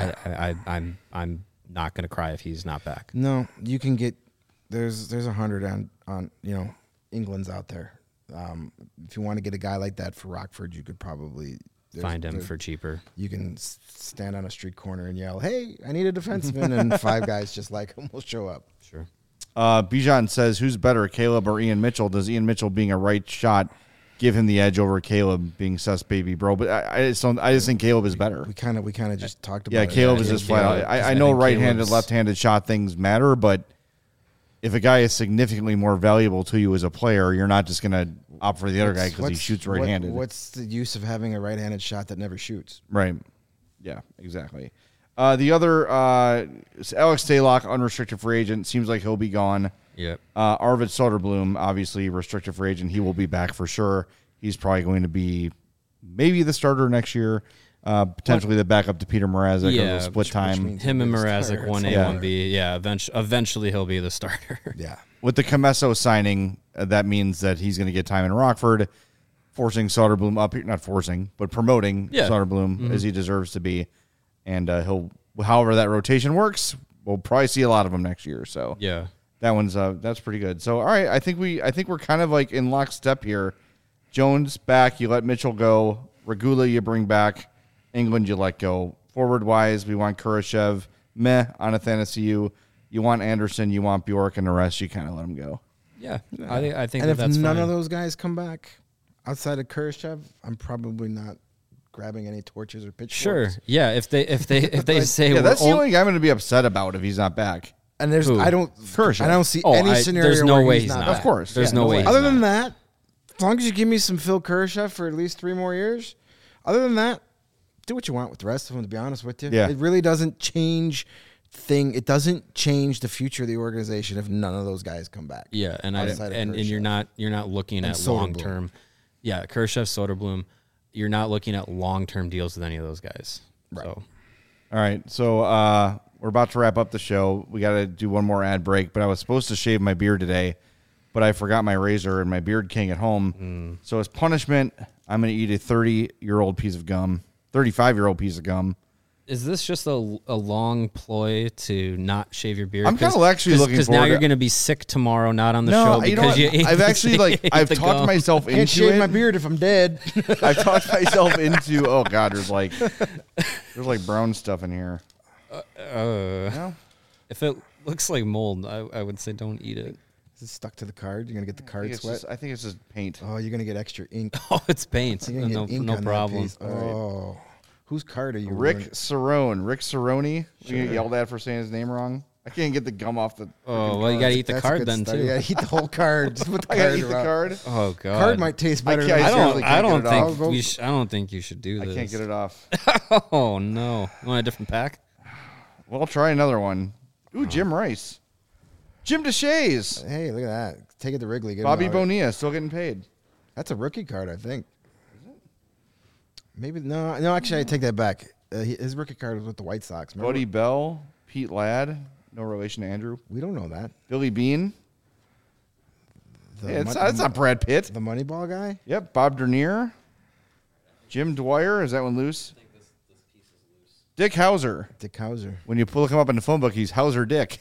I'm not going to cry if he's not back. No, you can get there's 100 on England's out there. If you want to get a guy like that for Rockford, you could probably find him for cheaper. You can stand on a street corner and yell, "Hey, I need a defenseman," and 5 guys just like him will show up. Sure. Bijan says, "Who's better, Caleb or Ian Mitchell? Does Ian Mitchell being a right shot give him the edge over Caleb being sus baby bro?" But I just think Caleb is better. We kind of just talked about. Yeah, it. Caleb is just flat out. I know right-handed, left-handed shot things matter, but if a guy is significantly more valuable to you as a player, you're not just going to opt for the other guy because he shoots right-handed. What's the use of having a right-handed shot that never shoots? Right. Yeah, exactly. The other, Alex Stalock, unrestricted free agent. Seems like he'll be gone. Yep. Arvid Soderblom, obviously restricted free agent. He will be back for sure. He's probably going to be maybe the starter next year. Potentially the backup to Peter Mrazek or the split time. Him and Mrazek, 1A, 1B. Yeah, eventually he'll be the starter. Yeah. With the Comesso signing, that means that he's going to get time in Rockford, forcing Soderblom up. Not forcing, but promoting Soderblom as he deserves to be. And however that rotation works, we'll probably see a lot of them next year. So yeah, that's pretty good. So all right, I think we're kind of like in lockstep here. Jones back, you let Mitchell go. Regula you bring back. England you let go. Forward wise, we want Kurashev. Meh on Athanasiou. You want Anderson. You want Bjork, and the rest you kind of let them go. Yeah, I think and if that's none fine. of those guys come back outside of Kurashev, I'm probably not grabbing any torches or pitchforks. Sure. Yeah. If they say that's the only guy I'm going to be upset about if he's not back. And I don't see any scenario. There's no where way he's not. Of course, there's no way. Other than that, as long as you give me some Phil Kurashev for at least 3 more years, other than that, do what you want with the rest of them. To be honest with you, it really doesn't change. It doesn't change the future of the organization if none of those guys come back. Yeah, and you're not looking at long term. Yeah, Kurashev, Soderblom. You're not looking at long-term deals with any of those guys. Right. So. All right. So we're about to wrap up the show. We got to do one more ad break, but I was supposed to shave my beard today, but I forgot my razor and my Beard King at home. So as punishment, I'm going to eat a 30-year-old piece of gum, 35-year-old piece of gum. Is this just a long ploy to not shave your beard? I'm kind of actually looking forward. Because now you're going to be sick tomorrow, not on the show because you ate I've actually I've talked myself into Can't shave it. my beard if I'm dead. I've talked myself into. Oh God, there's like brown stuff in here. If it looks like mold, I would say don't eat it. Is it stuck to the card? You're gonna get the card sweat. I think it's just paint. Oh, you're gonna get extra ink. Oh, it's paint. You're gonna get ink no on problem. That piece. Oh. Whose card are you? Rick Cerrone. You get yelled at for saying his name wrong? I can't get the gum off the. Oh, well, you got to eat the That's a card good then, start. too. You gotta eat the whole card. Just put the I gotta card eat the around. card. Oh, God. Card might taste better. I than can't- the seriously jelly. I don't get it think off. I don't think you should do I this. can't get it off. Oh, no. You want a different pack? Well, I'll try another one. Ooh, Jim Rice. Jim DeShays. Hey, look at that. Take it to Wrigley. Get him Bobby out. Bonilla still getting paid. That's a rookie card, I think. Maybe no. Actually, I take that back. His rookie card was with the White Sox. Remember? Buddy Bell. Pete Ladd. No relation to Andrew. We don't know that. Billy Bean. The Yeah, it's not Brad Pitt. the Moneyball guy. Yep. Bob Dernier. Jim Dwyer. Is that one loose? Dick Hauser. Dick Hauser. When you look him up in the phone book, he's Hauser Dick.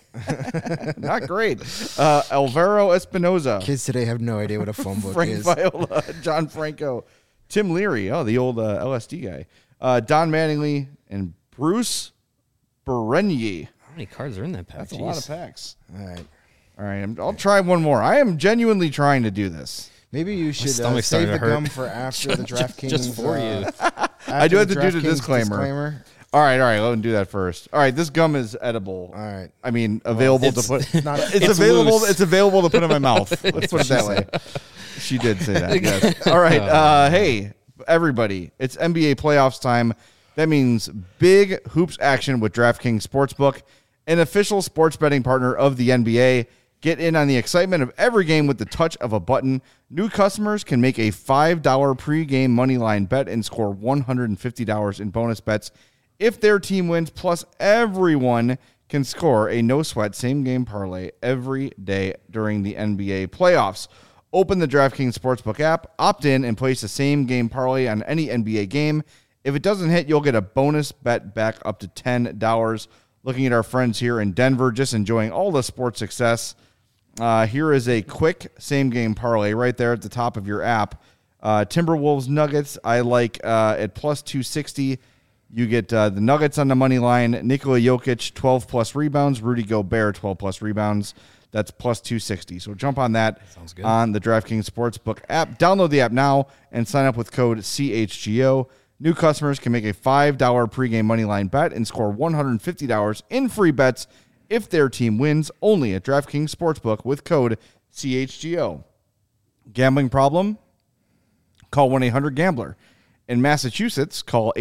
Not great. Alvaro Espinoza. Kids today have no idea what a phone book Frank is. Viola. John Franco. Tim Leary. Oh, the old LSD guy. Don Mattingly and Bruce Berenier. How many cards are in that pack? That's a Jeez. lot of packs. All right. All right, I'll try one more. I am genuinely trying to do this. Maybe you should stomach's save starting the to hurt. gum for after the DraftKings. Just for you. I do have after to do the DraftKings disclaimer. All right. Let me do that first. All right, this gum is edible. All right. I mean, available to it's- put. not- it's it's available. loose. It's available to put in my mouth. Let's put it that way. She did say that. Yes. All right. Hey, everybody! It's NBA playoffs time. That means big hoops action with DraftKings Sportsbook, an official sports betting partner of the NBA. Get in on the excitement of every game with the touch of a button. New customers can make a $5 pregame moneyline bet and score $150 in bonus bets if their team wins. Plus, everyone can score a no-sweat same-game parlay every day during the NBA playoffs. Open the DraftKings Sportsbook app, opt in, and place a same-game parlay on any NBA game. If it doesn't hit, you'll get a bonus bet back up to $10. Looking at our friends here in Denver, just enjoying all the sports success. Here is a quick same-game parlay right there at the top of your app. Timberwolves Nuggets, I like at plus 260. You get the Nuggets on the money line. Nikola Jokic, 12-plus rebounds. Rudy Gobert, 12-plus rebounds. That's plus 260. So jump on that on the DraftKings Sportsbook app. Download the app now and sign up with code CHGO. New customers can make a $5 pregame moneyline bet and score $150 in free bets if their team wins, only at DraftKings Sportsbook with code CHGO. Gambling problem? Call 1-800-GAMBLER. In Massachusetts, call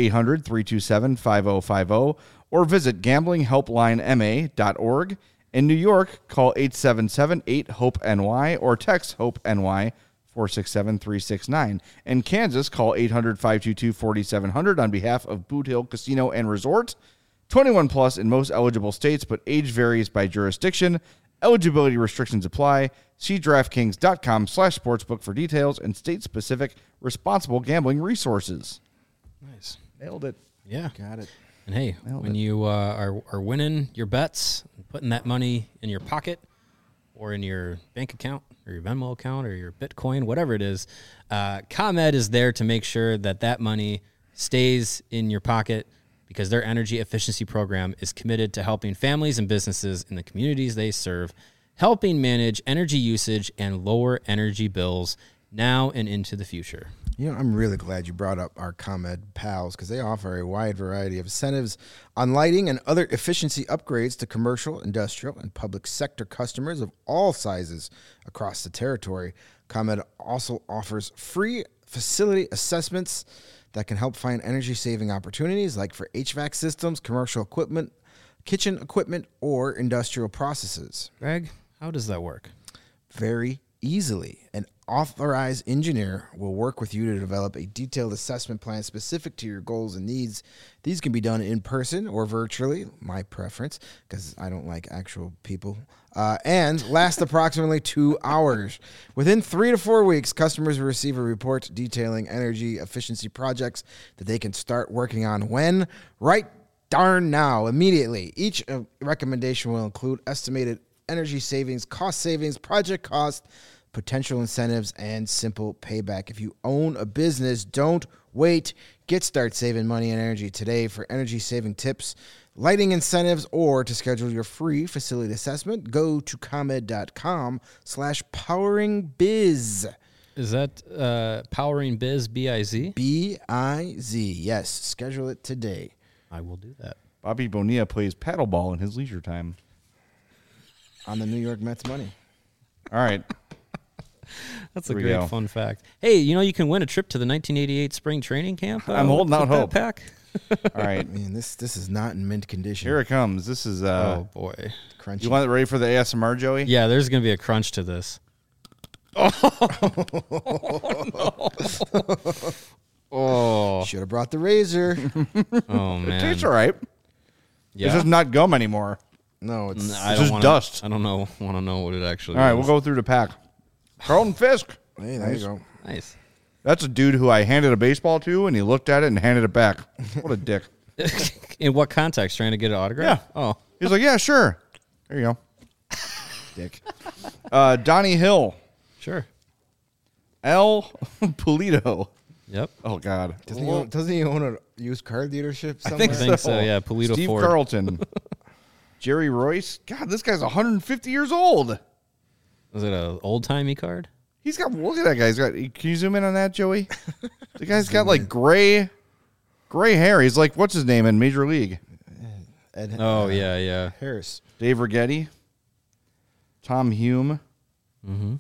800-327-5050 or visit gamblinghelplinema.org. In New York, call 877-8-HOPE-NY or text HOPE-NY 467-369. In Kansas, call 800-522-4700 on behalf of Boot Hill Casino and Resort. 21 plus in most eligible states, but age varies by jurisdiction. Eligibility restrictions apply. See DraftKings.com/sportsbook for details and state-specific responsible gambling resources. Nice. Nailed it. Yeah. Got it. And hey, when you are winning your bets, putting that money in your pocket or in your bank account or your Venmo account or your Bitcoin, whatever it is, ComEd is there to make sure that that money stays in your pocket because their energy efficiency program is committed to helping families and businesses in the communities they serve, helping manage energy usage and lower energy bills now and into the future. You know, I'm really glad you brought up our ComEd pals because they offer a wide variety of incentives on lighting and other efficiency upgrades to commercial, industrial, and public sector customers of all sizes across the territory. ComEd also offers free facility assessments that can help find energy-saving opportunities like for HVAC systems, commercial equipment, kitchen equipment, or industrial processes. Greg, how does that work? Very easily. An authorized engineer will work with you to develop a detailed assessment plan specific to your goals and needs. These can be done in person or virtually, my preference, because I don't like actual people, and last approximately 2 hours. Within 3 to 4 weeks, customers will receive a report detailing energy efficiency projects that they can start working on when? Right darn now, immediately. Each recommendation will include estimated energy savings, cost savings, project cost, potential incentives, and simple payback. If you own a business, don't wait. Start saving money and energy today. For energy saving tips, lighting incentives, or to schedule your free facility assessment, go to ComEd.com/poweringbiz. Is that Powering Biz, B-I-Z? B-I-Z. Yes, schedule it today. I will do that. Bobby Bonilla plays paddleball in his leisure time. on the New York Mets money. All right. That's a Here we go. great fun fact. Hey, you can win a trip to the 1988 spring training camp. I'm holding out with that hope. Pack. All right. Man, this is not in mint condition. Here it comes. This is Oh boy. Crunchy. you want it ready for the ASMR, Joey? Yeah, there's gonna be a crunch to this. Oh, Should have brought the razor. oh It man. tastes all right. Yeah. It's just not gum anymore. No, it's I It's don't just wanna, dust. I don't know. Want to know what it actually. All right, is. we'll go through the pack. Carlton Fisk. hey, there you go. Nice. That's a dude who I handed a baseball to, and he looked at it and handed it back. What a dick. In what context? Trying to get an autograph? Yeah. Oh, He's like, yeah, sure. There you go. Dick. Donnie Hill. sure. L. Polito. Yep. Oh, God. Doesn't he own a used car dealership somewhere? think I think so. Yeah, Polito Steve Ford. Carlton. Jerry Royce. God, this guy's 150 years old. Was it an old timey card? He's got, look at that guy. He's got, can you zoom in on that, Joey? The guy's got like gray hair. He's like, what's his name in Major League? Ed, Oh yeah. Harris. Dave Righetti. Tom Hume. Mm-hmm.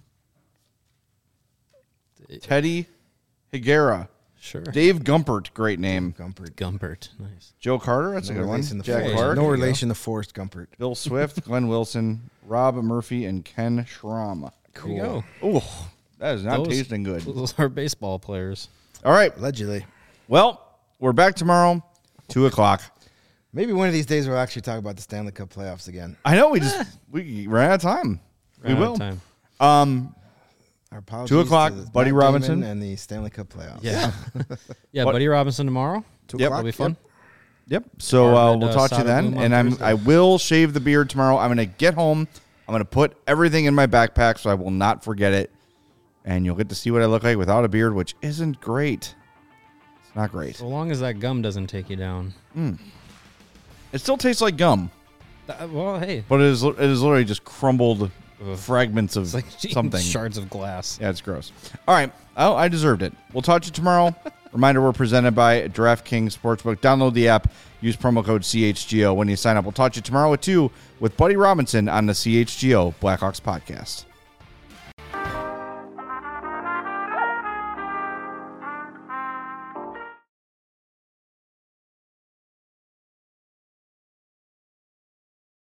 Teddy Higuera. Sure. Dave Gumpert. Great name. Gumpert. Gumpert. Nice. Joe Carter. That's a good one. relation to Jack Forrest. Clark. No relation to Forrest Gumpert. Bill Swift. Glenn Wilson. Rob Murphy. And Ken Schramm. There you go. Oh, that is not Those- tasting good. Those are baseball players. All right. Allegedly. Well, we're back tomorrow, 2:00. Maybe one of these days we'll actually talk about the Stanley Cup playoffs again. I know we ran out of time. Ran we out will. of time. Our apologies 2:00, to Buddy Matt Damon Robinson. and the Stanley Cup playoffs. Yeah. Yeah, What- Buddy Robinson tomorrow. 2 Yep. o'clock. That'll be fun. Yep. So Arvid, we'll talk to you Sada then, Bloom on and Thursday. I will shave the beard tomorrow. I'm gonna get home. I'm gonna put everything in my backpack so I will not forget it, and you'll get to see what I look like without a beard, which isn't great. It's not great. So long as that gum doesn't take you down. It still tastes like gum, Well, hey, but it is literally just crumbled fragments of it's like something. shards of glass. Yeah, it's gross. All right. Oh, I deserved it. We'll talk to you tomorrow. Reminder, we're presented by DraftKings Sportsbook. Download the app. Use promo code CHGO when you sign up. We'll talk to you tomorrow at 2 with Buddy Robinson on the CHGO Blackhawks podcast.